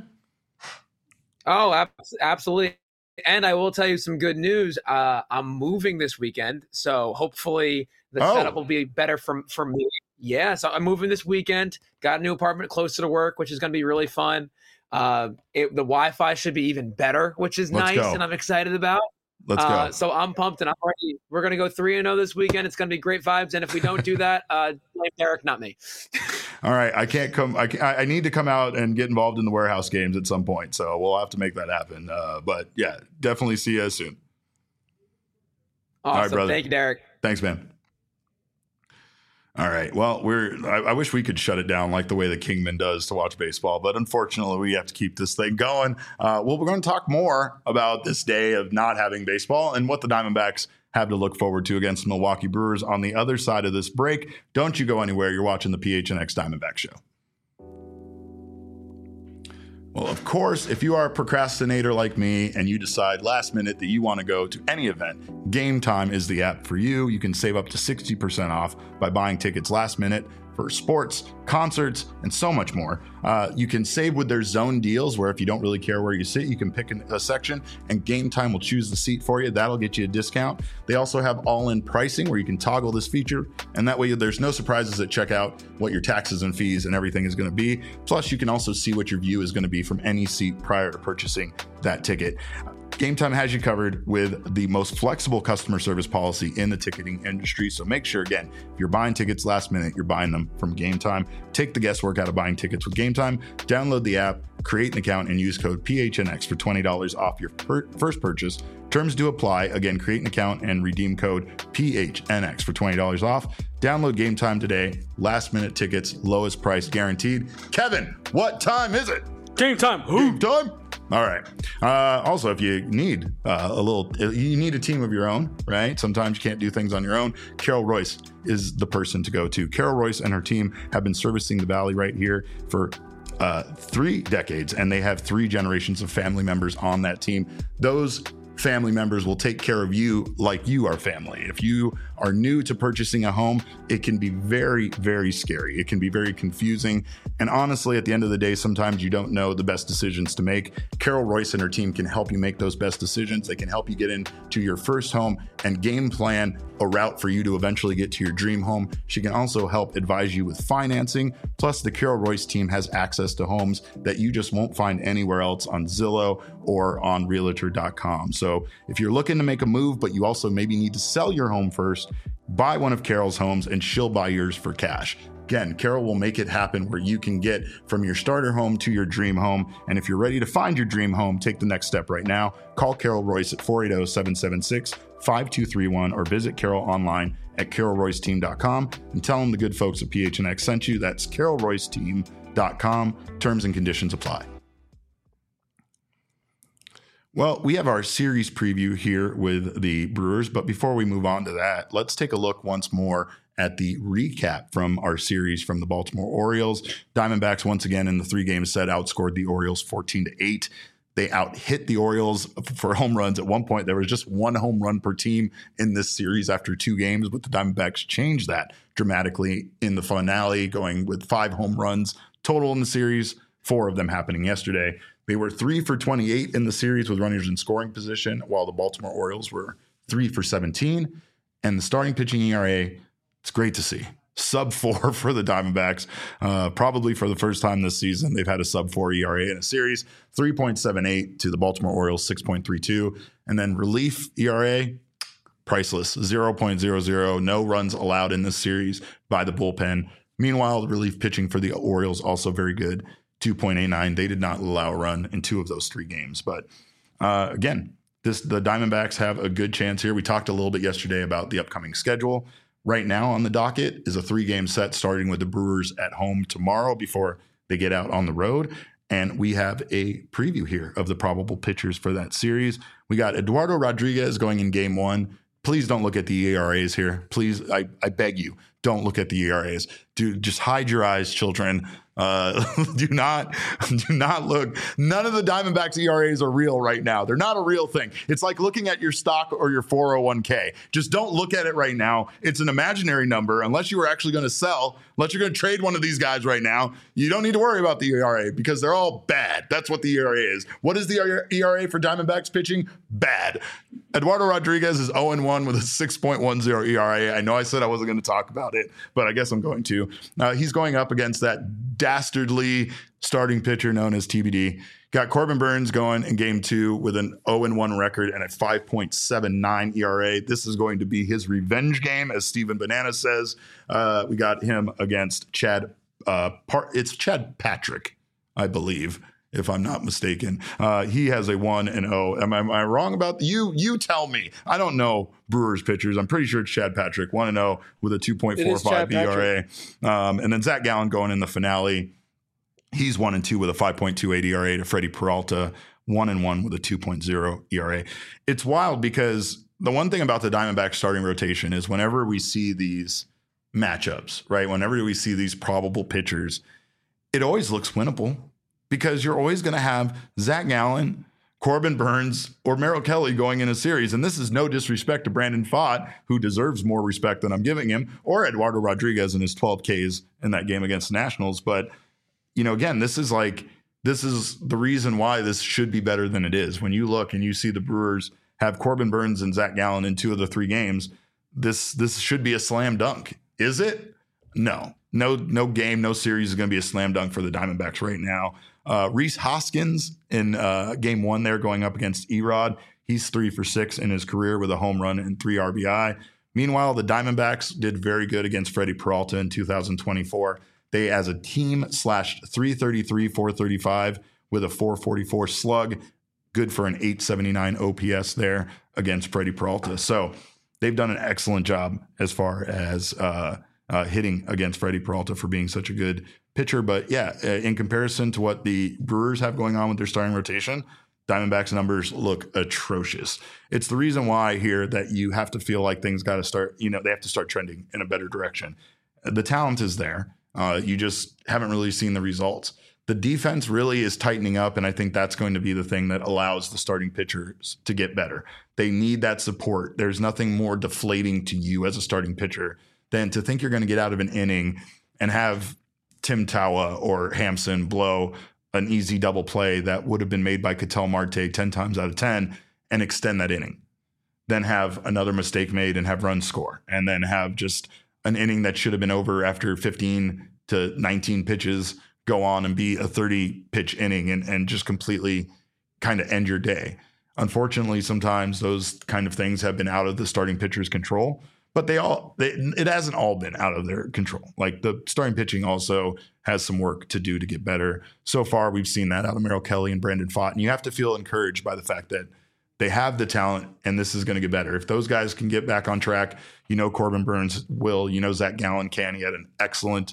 Oh, absolutely. And I will tell you some good news. I'm moving this weekend. So hopefully the setup will be better for me. Yeah. So I'm moving this weekend. Got a new apartment closer to work, which is going to be really fun. The Wi-Fi should be even better, which is nice, and I'm excited about. Let's go. So I'm pumped, and we're going to go 3-0 this weekend. It's going to be great vibes, and if we don't do that, blame Derek, not me. All right, I can't come. I need to come out and get involved in the warehouse games at some point, so we'll have to make that happen. But yeah, definitely see you soon. Awesome. All right, brother. Thank you, Derek. Thanks, man. All right. Well, I wish we could shut it down like the way the Kingman does to watch baseball, but unfortunately we have to keep this thing going. We're going to talk more about this day of not having baseball and what the Diamondbacks have to look forward to against Milwaukee Brewers on the other side of this break. Don't you go anywhere. You're watching the PHNX Diamondback Show. Well, of course, if you are a procrastinator like me and you decide last minute that you want to go to any event, Game Time is the app for you. You can save up to 60% off by buying tickets last minute, for sports, concerts, and so much more. You can save with their zone deals, where if you don't really care where you sit, you can pick a section and Game Time will choose the seat for you. That'll get you a discount. They also have all-in pricing where you can toggle this feature, and that way there's no surprises at checkout what your taxes and fees and everything is going to be. Plus, you can also see what your view is going to be from any seat prior to purchasing that ticket. Game Time has you covered with the most flexible customer service policy in the ticketing industry. So make sure, again, if you're buying tickets last minute, you're buying them from Game Time. Take the guesswork out of buying tickets with Game Time. Download the app, create an account, and use code PHNX for $20 off your first purchase. Terms do apply. Again, create an account and redeem code PHNX for $20 off. Download Game Time today. Last minute tickets, lowest price guaranteed. Kevin, what time is it? Game time. Game time. All right. Also, if you need you need a team of your own, right? Sometimes you can't do things on your own. Carol Royce is the person to go to. Carol Royce and her team have been servicing the Valley right here for 3 decades, and they have 3 generations of family members on that team. Those family members will take care of you like you are family. If you are new to purchasing a home, it can be very, very scary. It can be very confusing. And honestly, at the end of the day, sometimes you don't know the best decisions to make. Carol Royce and her team can help you make those best decisions. They can help you get into your first home and game plan a route for you to eventually get to your dream home. She can also help advise you with financing. Plus, the Carol Royce team has access to homes that you just won't find anywhere else on Zillow or on Realtor.com. So if you're looking to make a move, but you also maybe need to sell your home first, buy one of Carol's homes and she'll buy yours for cash. Again, Carol will make it happen where you can get from your starter home to your dream home. And if you're ready to find your dream home, take the next step right now. Call Carol Royce at 480-776-5231 or visit Carol online at carolroyceteam.com and tell them the good folks at PHNX sent you. That's carolroyceteam.com. Terms and conditions apply. Well, we have our series preview here with the Brewers, but before we move on to that, let's take a look once more at the recap from our series from the Baltimore Orioles. Diamondbacks, once again, in the 3-game set, outscored the Orioles 14-8. They out-hit the Orioles for home runs. At one point, there was just 1 home run per team in this series after 2 games, but the Diamondbacks changed that dramatically in the finale, going with 5 home runs total in the series, 4 of them happening yesterday. They were 3 for 28 in the series with runners in scoring position, while the Baltimore Orioles were 3 for 17. And the starting pitching ERA, it's great to see. Sub-4 for the Diamondbacks. Probably for the first time this season, they've had a sub-4 ERA in a series. 3.78 to the Baltimore Orioles, 6.32. And then relief ERA, priceless, 0.00. No runs allowed in this series by the bullpen. Meanwhile, the relief pitching for the Orioles also very good. 2.89. They did not allow a run in 2 of those 3 games. But again, the Diamondbacks have a good chance here. We talked a little bit yesterday about the upcoming schedule. Right now on the docket is a 3-game set starting with the Brewers at home tomorrow before they get out on the road. And we have a preview here of the probable pitchers for that series. We got Eduardo Rodriguez going in game 1. Please don't look at the ERAs here. Please, I beg you, don't look at the ERAs. Just hide your eyes, children. Do not look. None of the Diamondbacks ERAs are real right now. They're not a real thing. It's like looking at your stock or your 401k. Just don't look at it right now. It's an imaginary number. Unless you were actually going to sell, unless you're going to trade one of these guys right now, you don't need to worry about the ERA because they're all bad. That's what the ERA is. What is the ERA for Diamondbacks pitching? Bad. Eduardo Rodriguez is 0-1 with a 6.10 ERA. I know I said I wasn't going to talk about it, but I guess I'm going to. He's going up against that dastardly starting pitcher known as TBD. Got Corbin Burns going in game 2 with an 0-1 record and a 5.79 ERA. This is going to be his revenge game, as Steven Banana says. We got him against Chad. It's Chad Patrick, I believe, if I'm not mistaken. He has a 1-0. Am I wrong about you? You tell me. I don't know Brewers pitchers. I'm pretty sure it's Chad Patrick, 1-0 with a 2.45 ERA. And then Zach Gallen going in the finale. He's 1-2 with a 5.28 ERA to Freddie Peralta, 1-1 with a 2.0 ERA. It's wild because the one thing about the Diamondbacks starting rotation is whenever we see these matchups, right? Whenever we see these probable pitchers, it always looks winnable. Because you're always going to have Zach Gallen Corbin Burnes or Merrill Kelly going in a series. And this is no disrespect to Brandon Pfaadt, who deserves more respect than I'm giving him, or Eduardo Rodriguez in his 12 Ks in that game against the Nationals. But, again, this is the reason why this should be better than it is. When you look and you see the Brewers have Corbin Burnes and Zach Gallen in 2 of the 3 games, this should be a slam dunk. Is it? No game, no series is going to be a slam dunk for the Diamondbacks right now. Rhys Hoskins in game 1 there going up against Erod. He's 3 for 6 in his career with a home run and 3 RBI. Meanwhile, the Diamondbacks did very good against Freddie Peralta in 2024. They, as a team, slashed .333, .435 with a .444 slug. Good for an .879 OPS there against Freddie Peralta. So they've done an excellent job as far as hitting against Freddie Peralta for being such a good pitcher. But yeah, in comparison to what the Brewers have going on with their starting rotation, Diamondbacks numbers look atrocious. It's the reason why here that you have to feel like things got to start, they have to start trending in a better direction. The talent is there. You just haven't really seen the results. The defense really is tightening up, and I think that's going to be the thing that allows the starting pitchers to get better. They need that support. There's nothing more deflating to you as a starting pitcher than to think you're going to get out of an inning and have Tim Tawa or Hampson blow an easy double play that would have been made by Ketel Marte 10 times out of 10 and extend that inning. Then have another mistake made and have runs score, and then have just an inning that should have been over after 15 to 19 pitches go on and be a 30-pitch inning and just completely kind of end your day. Unfortunately, sometimes those kind of things have been out of the starting pitcher's control, but it hasn't all been out of their control. Like, the starting pitching also has some work to do to get better. So far, we've seen that out of Merrill Kelly and Brandon Pfaadt, and you have to feel encouraged by the fact that they have the talent, and this is going to get better. If those guys can get back on track, Corbin Burnes will, Zach Gallen can. He had an excellent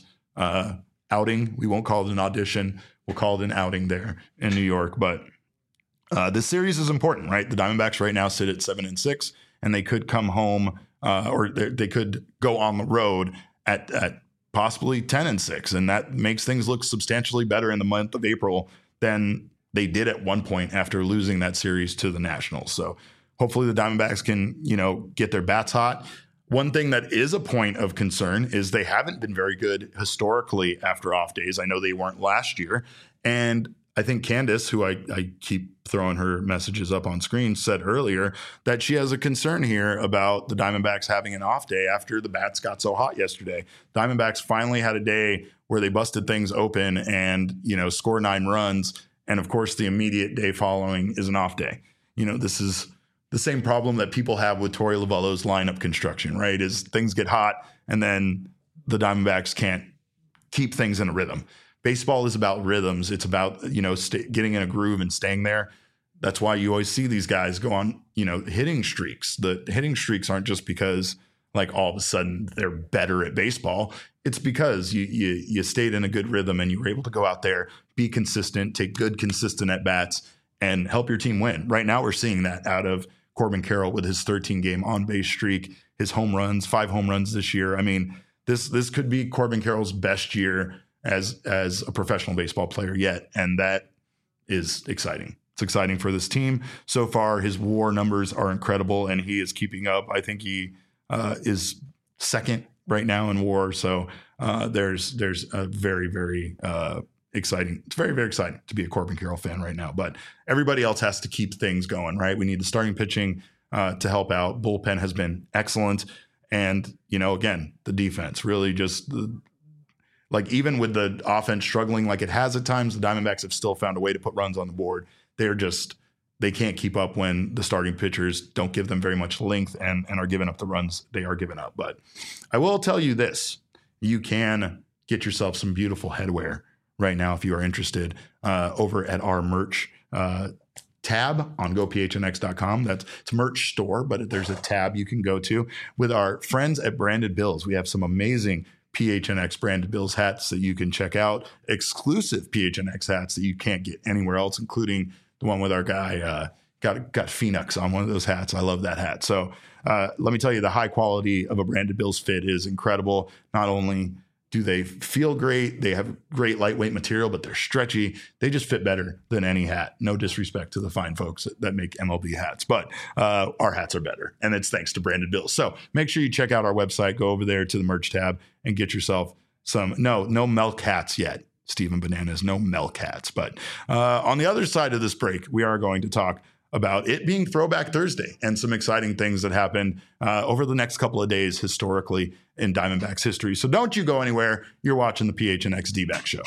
outing. We won't call it an audition. We'll call it an outing there in New York. But this series is important, right? The Diamondbacks right now sit at 7-6, and they could come home or they could go on the road at possibly 10-6, and that makes things look substantially better in the month of April than they did at one point after losing that series to the Nationals. So hopefully the Diamondbacks can, get their bats hot. One thing that is a point of concern is they haven't been very good historically after off days. I know they weren't last year. And I think Candace, who I keep throwing her messages up on screen, said earlier that she has a concern here about the Diamondbacks having an off day after the bats got so hot yesterday. Diamondbacks finally had a day where they busted things open and, score 9 runs. And of course, the immediate day following is an off day. This is the same problem that people have with Torey Lovullo's lineup construction, right? Is things get hot and then the Diamondbacks can't keep things in a rhythm. Baseball is about rhythms. It's about, getting in a groove and staying there. That's why you always see these guys go on, hitting streaks. The hitting streaks aren't just because like all of a sudden they're better at baseball. It's because you stayed in a good rhythm and you were able to go out there, be consistent, take good, consistent at-bats, and help your team win. Right now we're seeing that out of Corbin Carroll with his 13-game on-base streak, his home runs, 5 home runs this year. I mean, this could be Corbin Carroll's best year as a professional baseball player yet, and that is exciting. It's exciting for this team. So far, his WAR numbers are incredible, and he is keeping up. I think he is second right now in WAR. So there's a very, very exciting. It's very, very exciting to be a Corbin Carroll fan right now. But everybody else has to keep things going, right? We need the starting pitching to help out. Bullpen has been excellent, and again, the defense really just. Even with the offense struggling like it has at times, the Diamondbacks have still found a way to put runs on the board. They can't keep up when the starting pitchers don't give them very much length and are giving up the runs they are giving up. But I will tell you this, you can get yourself some beautiful headwear right now if you are interested over at our merch tab on gophnx.com. It's a merch store, but there's a tab you can go to with our friends at Branded Bills. We have some amazing PHNX Branded Bills hats that you can check out, exclusive PHNX hats that you can't get anywhere else, including the one with our guy got Phoenix on one of those hats. I love that hat. So let me tell you, the high quality of a Branded Bills fit is incredible. Not only Do they feel great? They have great lightweight material, but they're stretchy. They just fit better than any hat. No disrespect to the fine folks that make MLB hats, but our hats are better. And it's thanks to Branded Bills. So make sure you check out our website. Go over there to the merch tab and get yourself some. No milk hats yet, Stephen Bananas. No milk hats. But on the other side of this break, we are going to talk about it being Throwback Thursday and some exciting things that happened over the next couple of days historically in Diamondbacks history. So don't you go anywhere. You're watching the PHNX D-Back Show.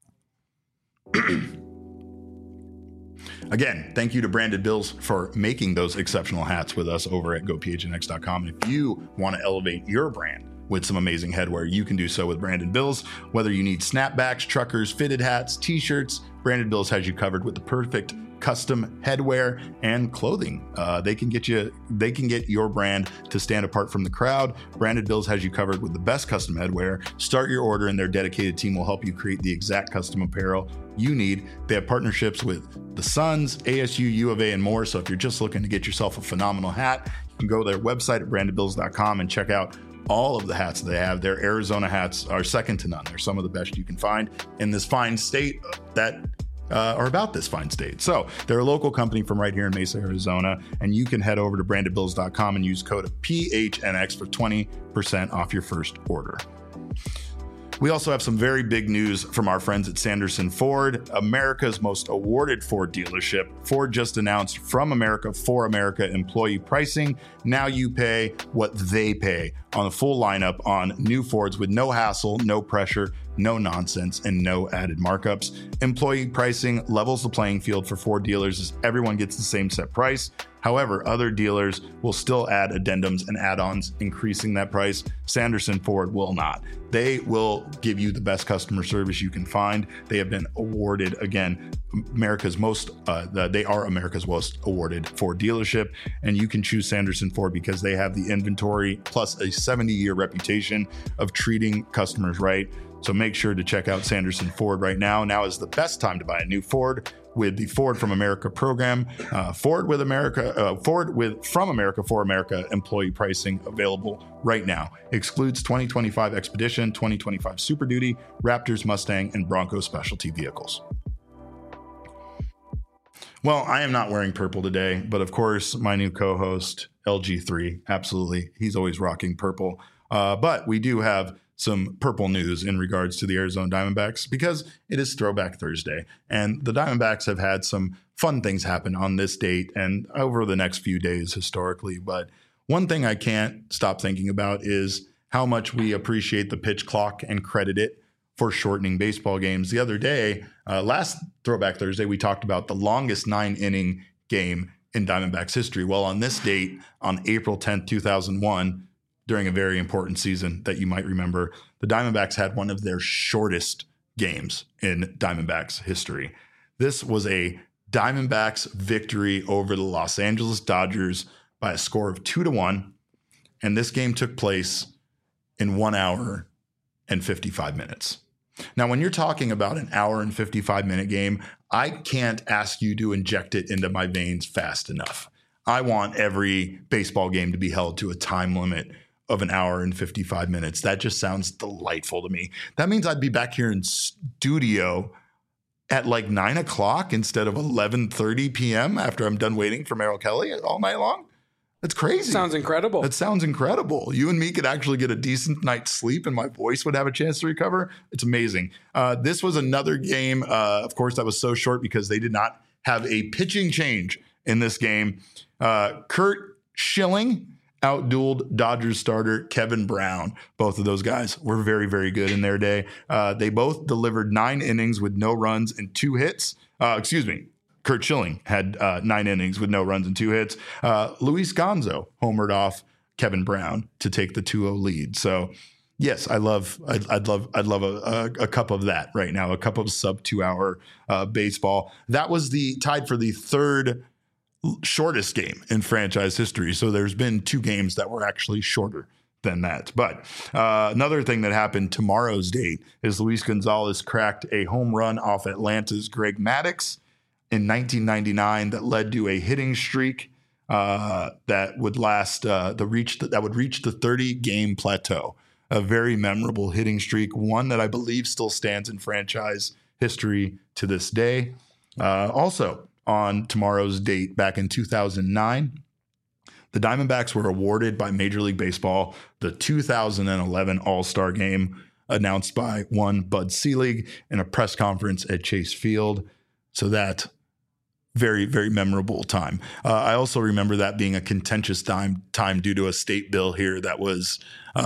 Again, thank you to Branded Bills for making those exceptional hats with us over at gophnx.com. If you want to elevate your brand with some amazing headwear, you can do so with Branded Bills. Whether you need snapbacks, truckers, fitted hats, t-shirts, Branded Bills has you covered with the perfect custom headwear and clothing. They can get your brand to stand apart from the crowd. Branded Bills has you covered with the best custom headwear. Start your order and their dedicated team will help you create the exact custom apparel you need. They have partnerships with the Suns, ASU, U of A, and more. So if you're just looking to get yourself a phenomenal hat, you can go to their website at brandedbills.com and check out all of the hats they have. Their Arizona hats are second to none. They're some of the best you can find in this fine state that are about this fine state. So they're a local company from right here in Mesa, Arizona, and you can head over to brandedbills.com and use code PHNX for 20% off your first order. We also have some very big news from our friends at Sanderson Ford, America's most awarded Ford dealership. Ford just announced From America for America employee pricing. Now you pay what they pay on the full lineup on new Fords with no hassle, no pressure, no nonsense, and no added markups. Employee pricing levels the playing field for Ford dealers as everyone gets the same set price. However, other dealers will still add addendums and add-ons, increasing that price. Sanderson Ford will not. They will give you the best customer service you can find. They have been awarded, again, they are America's most awarded Ford dealership, and you can choose Sanderson Ford because they have the inventory plus a 70-year reputation of treating customers right. So make sure to check out Sanderson Ford right now. Now is the best time to buy a new Ford with the Ford From America program. Ford From America for America employee pricing available right now. Excludes 2025 Expedition, 2025 Super Duty, Raptors, Mustang, and Bronco specialty vehicles. Well, I am not wearing purple today, but of course, my new co-host, LG3, absolutely. He's always rocking purple. But we do have some purple news in regards to the Arizona Diamondbacks because it is Throwback Thursday, and the Diamondbacks have had some fun things happen on this date and over the next few days historically. But one thing I can't stop thinking about is how much we appreciate the pitch clock and credit it for shortening baseball games. The other day, last Throwback Thursday, we talked about the longest 9-inning game in Diamondbacks history. Well, on this date, on April 10th, 2001, during a very important season that you might remember, the Diamondbacks had one of their shortest games in Diamondbacks history. This was a Diamondbacks victory over the Los Angeles Dodgers by a score of 2-1. And this game took place in 1 hour and 55 minutes. Now, when you're talking about an hour and 55-minute game, I can't ask you to inject it into my veins fast enough. I want every baseball game to be held to a time limit of an hour and 55 minutes. That just sounds delightful to me. That means I'd be back here in studio at like 9 o'clock instead of 11:30 p.m. after I'm done waiting for Merrill Kelly all night long. That's crazy. Sounds incredible. That sounds incredible. You and me could actually get a decent night's sleep and my voice would have a chance to recover. It's amazing. This was another game, of course, that was so short because they did not have a pitching change in this game. Curt Schilling outdueled Dodgers starter Kevin Brown. Both of those guys were very, very good in their day. They both delivered 9 innings with no runs and 2 hits. Curt Schilling had 9 innings with no runs and 2 hits. Luis Gonzo homered off Kevin Brown to take the 2-0 lead. So yes, I'd love a cup of that right now, a cup of sub 2 hour baseball. That was tied for the third shortest game in franchise history. So there's been 2 games that were actually shorter than that. But another thing that happened tomorrow's date is Luis Gonzalez cracked a home run off Atlanta's Greg Maddux in 1999 that led to a hitting streak that would reach the 30-game plateau a very memorable hitting streak, one that I believe still stands in franchise history to this day. Also, on tomorrow's date, back in 2009, the Diamondbacks were awarded by Major League Baseball the 2011 All-Star Game, announced by one Bud Selig in a press conference at Chase Field. So that very, very memorable time. I also remember that being a contentious time due to a state bill here that was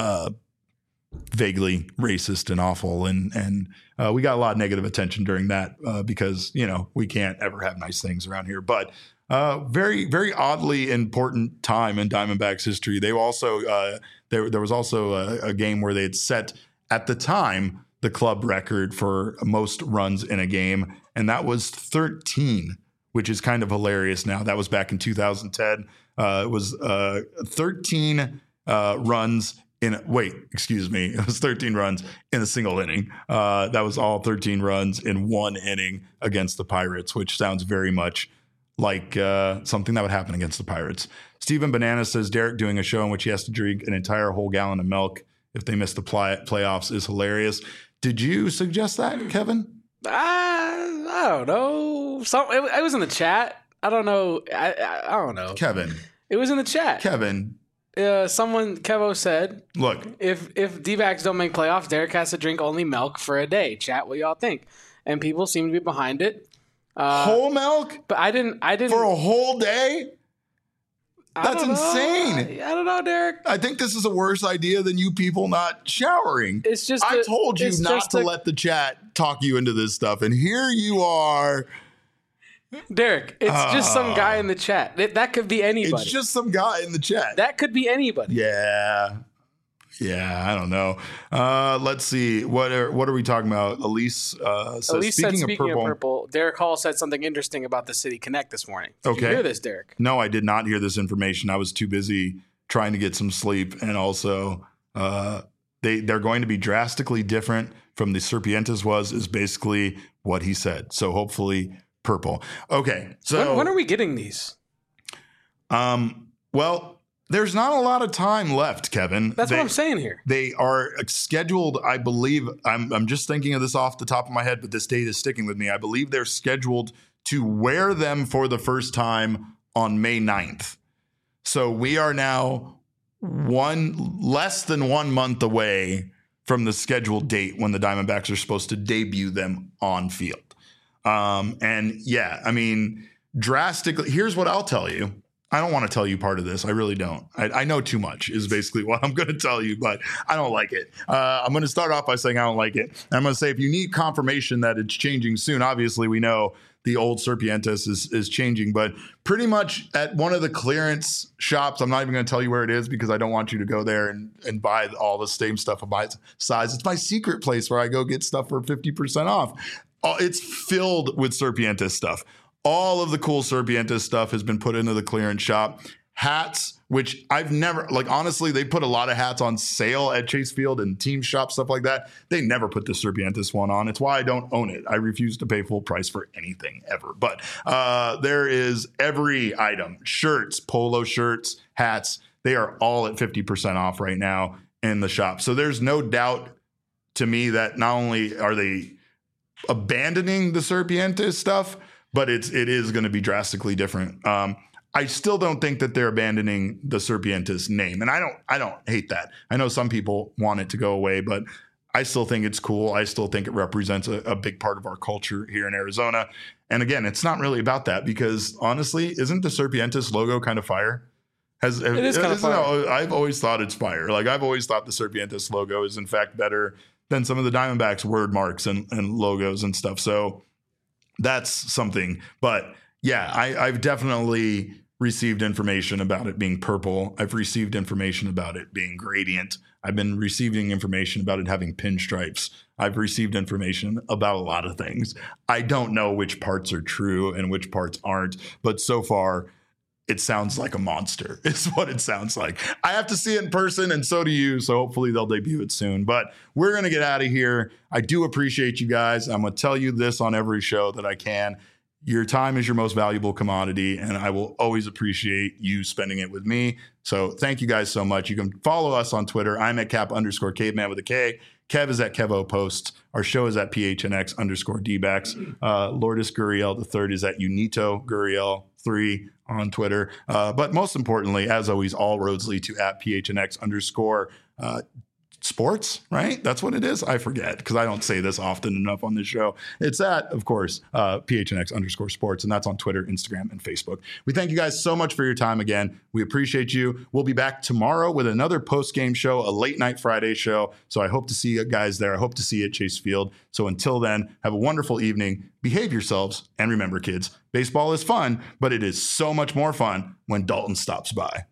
vaguely racist and awful. And we got a lot of negative attention during that because, we can't ever have nice things around here. But very, very oddly important time in Diamondbacks history. They also there was also a game where they had set, at the time, the club record for most runs in a game, and that was 13, which is kind of hilarious now. That was back in 2010. It was 13 runs it was 13 runs in a single inning. That was all 13 runs in one inning against the Pirates, which sounds very much like something that would happen against the Pirates. Stephen Banana says Derek doing a show in which he has to drink an entire whole gallon of milk if they miss the playoffs is hilarious. Did you suggest that, Kevin? I don't know. It was in the chat. I don't know. I don't know. Kevin. It was in the chat. Kevin. Kevo said, look, if D-backs don't make playoffs, Derek has to drink only milk for a day. Chat, what y'all think? And people seem to be behind it. Whole milk? But I didn't for a whole day? That's insane. I don't know, Derek. I think this is a worse idea than you people not showering. It's just I told you not to let the chat talk you into this stuff, and here you are. Derek, it's just some guy in the chat. That could be anybody. It's just some guy in the chat. That could be anybody. Yeah, I don't know. Let's see. What are we talking about? Elise says, speaking of purple, Derek Hall said something interesting about the City Connect this morning. Did you hear this, Derek? No, I did not hear this information. I was too busy trying to get some sleep. And also, they're going to be drastically different from the Serpientes is basically what he said. So hopefully purple. Okay. So when are we getting these? Well, there's not a lot of time left, Kevin. That's what I'm saying here. They are scheduled, I believe, I'm just thinking of this off the top of my head, but this date is sticking with me. I believe they're scheduled to wear them for the first time on May 9th. So we are now less than 1 month away from the scheduled date when the Diamondbacks are supposed to debut them on field. And yeah, I mean, drastically, here's what I'll tell you. I don't want to tell you part of this. I really don't. I know too much is basically what I'm going to tell you, but I don't like it. I'm going to start off by saying I don't like it. And I'm going to say if you need confirmation that it's changing soon, obviously we know the old Serpientes is changing, but pretty much at one of the clearance shops, I'm not even going to tell you where it is because I don't want you to go there and buy all the same stuff of my size. It's my secret place where I go get stuff for 50% off. It's filled with Serpientes stuff. All of the cool Serpientes stuff has been put into the clearance shop. Hats, which I've never, honestly, they put a lot of hats on sale at Chase Field and team shop, stuff like that. They never put the Serpientes one on. It's why I don't own it. I refuse to pay full price for anything ever. But there is every item, shirts, polo shirts, hats. They are all at 50% off right now in the shop. So there's no doubt to me that not only are they abandoning the Serpientes stuff, but it is going to be drastically different. I still don't think that they're abandoning the Serpientes name, and I don't hate that. I know some people want it to go away, but I still think it's cool. I still think it represents a big part of our culture here in Arizona. And again, it's not really about that because honestly, isn't the Serpientes logo kind of fire? It is kind of fire. I've always thought it's fire. I've always thought the Serpientes logo is in fact better than some of the Diamondbacks word marks and logos and stuff. So that's something. But yeah, I've definitely received information about it being purple. I've received information about it being gradient. I've been receiving information about it having pinstripes. I've received information about a lot of things. I don't know which parts are true and which parts aren't, but so far it sounds like a monster is what it sounds like. I have to see it in person, and so do you, so hopefully they'll debut it soon. But we're going to get out of here. I do appreciate you guys. I'm going to tell you this on every show that I can. Your time is your most valuable commodity, and I will always appreciate you spending it with me. So thank you guys so much. You can follow us on Twitter. I'm at Cap_caveman with a K. Kev is at Kevo Post. Our show is at PHNX_DBacks. Lourdes Gurriel III is at Unito Gurriel 3 on Twitter. But most importantly, as always, all roads lead to at PHNX_ sports, right? That's what it is. I forget because I don't say this often enough on this show. It's at, of course, PHNX_ sports, and that's on Twitter, Instagram, and Facebook. We thank you guys so much for your time again. We appreciate you. We'll be back tomorrow with another post-game show, a late night Friday show. So I hope to see you guys there. I hope to see you at Chase Field. So until then, have a wonderful evening. Behave yourselves. And remember, kids, baseball is fun, but it is so much more fun when Dalton stops by.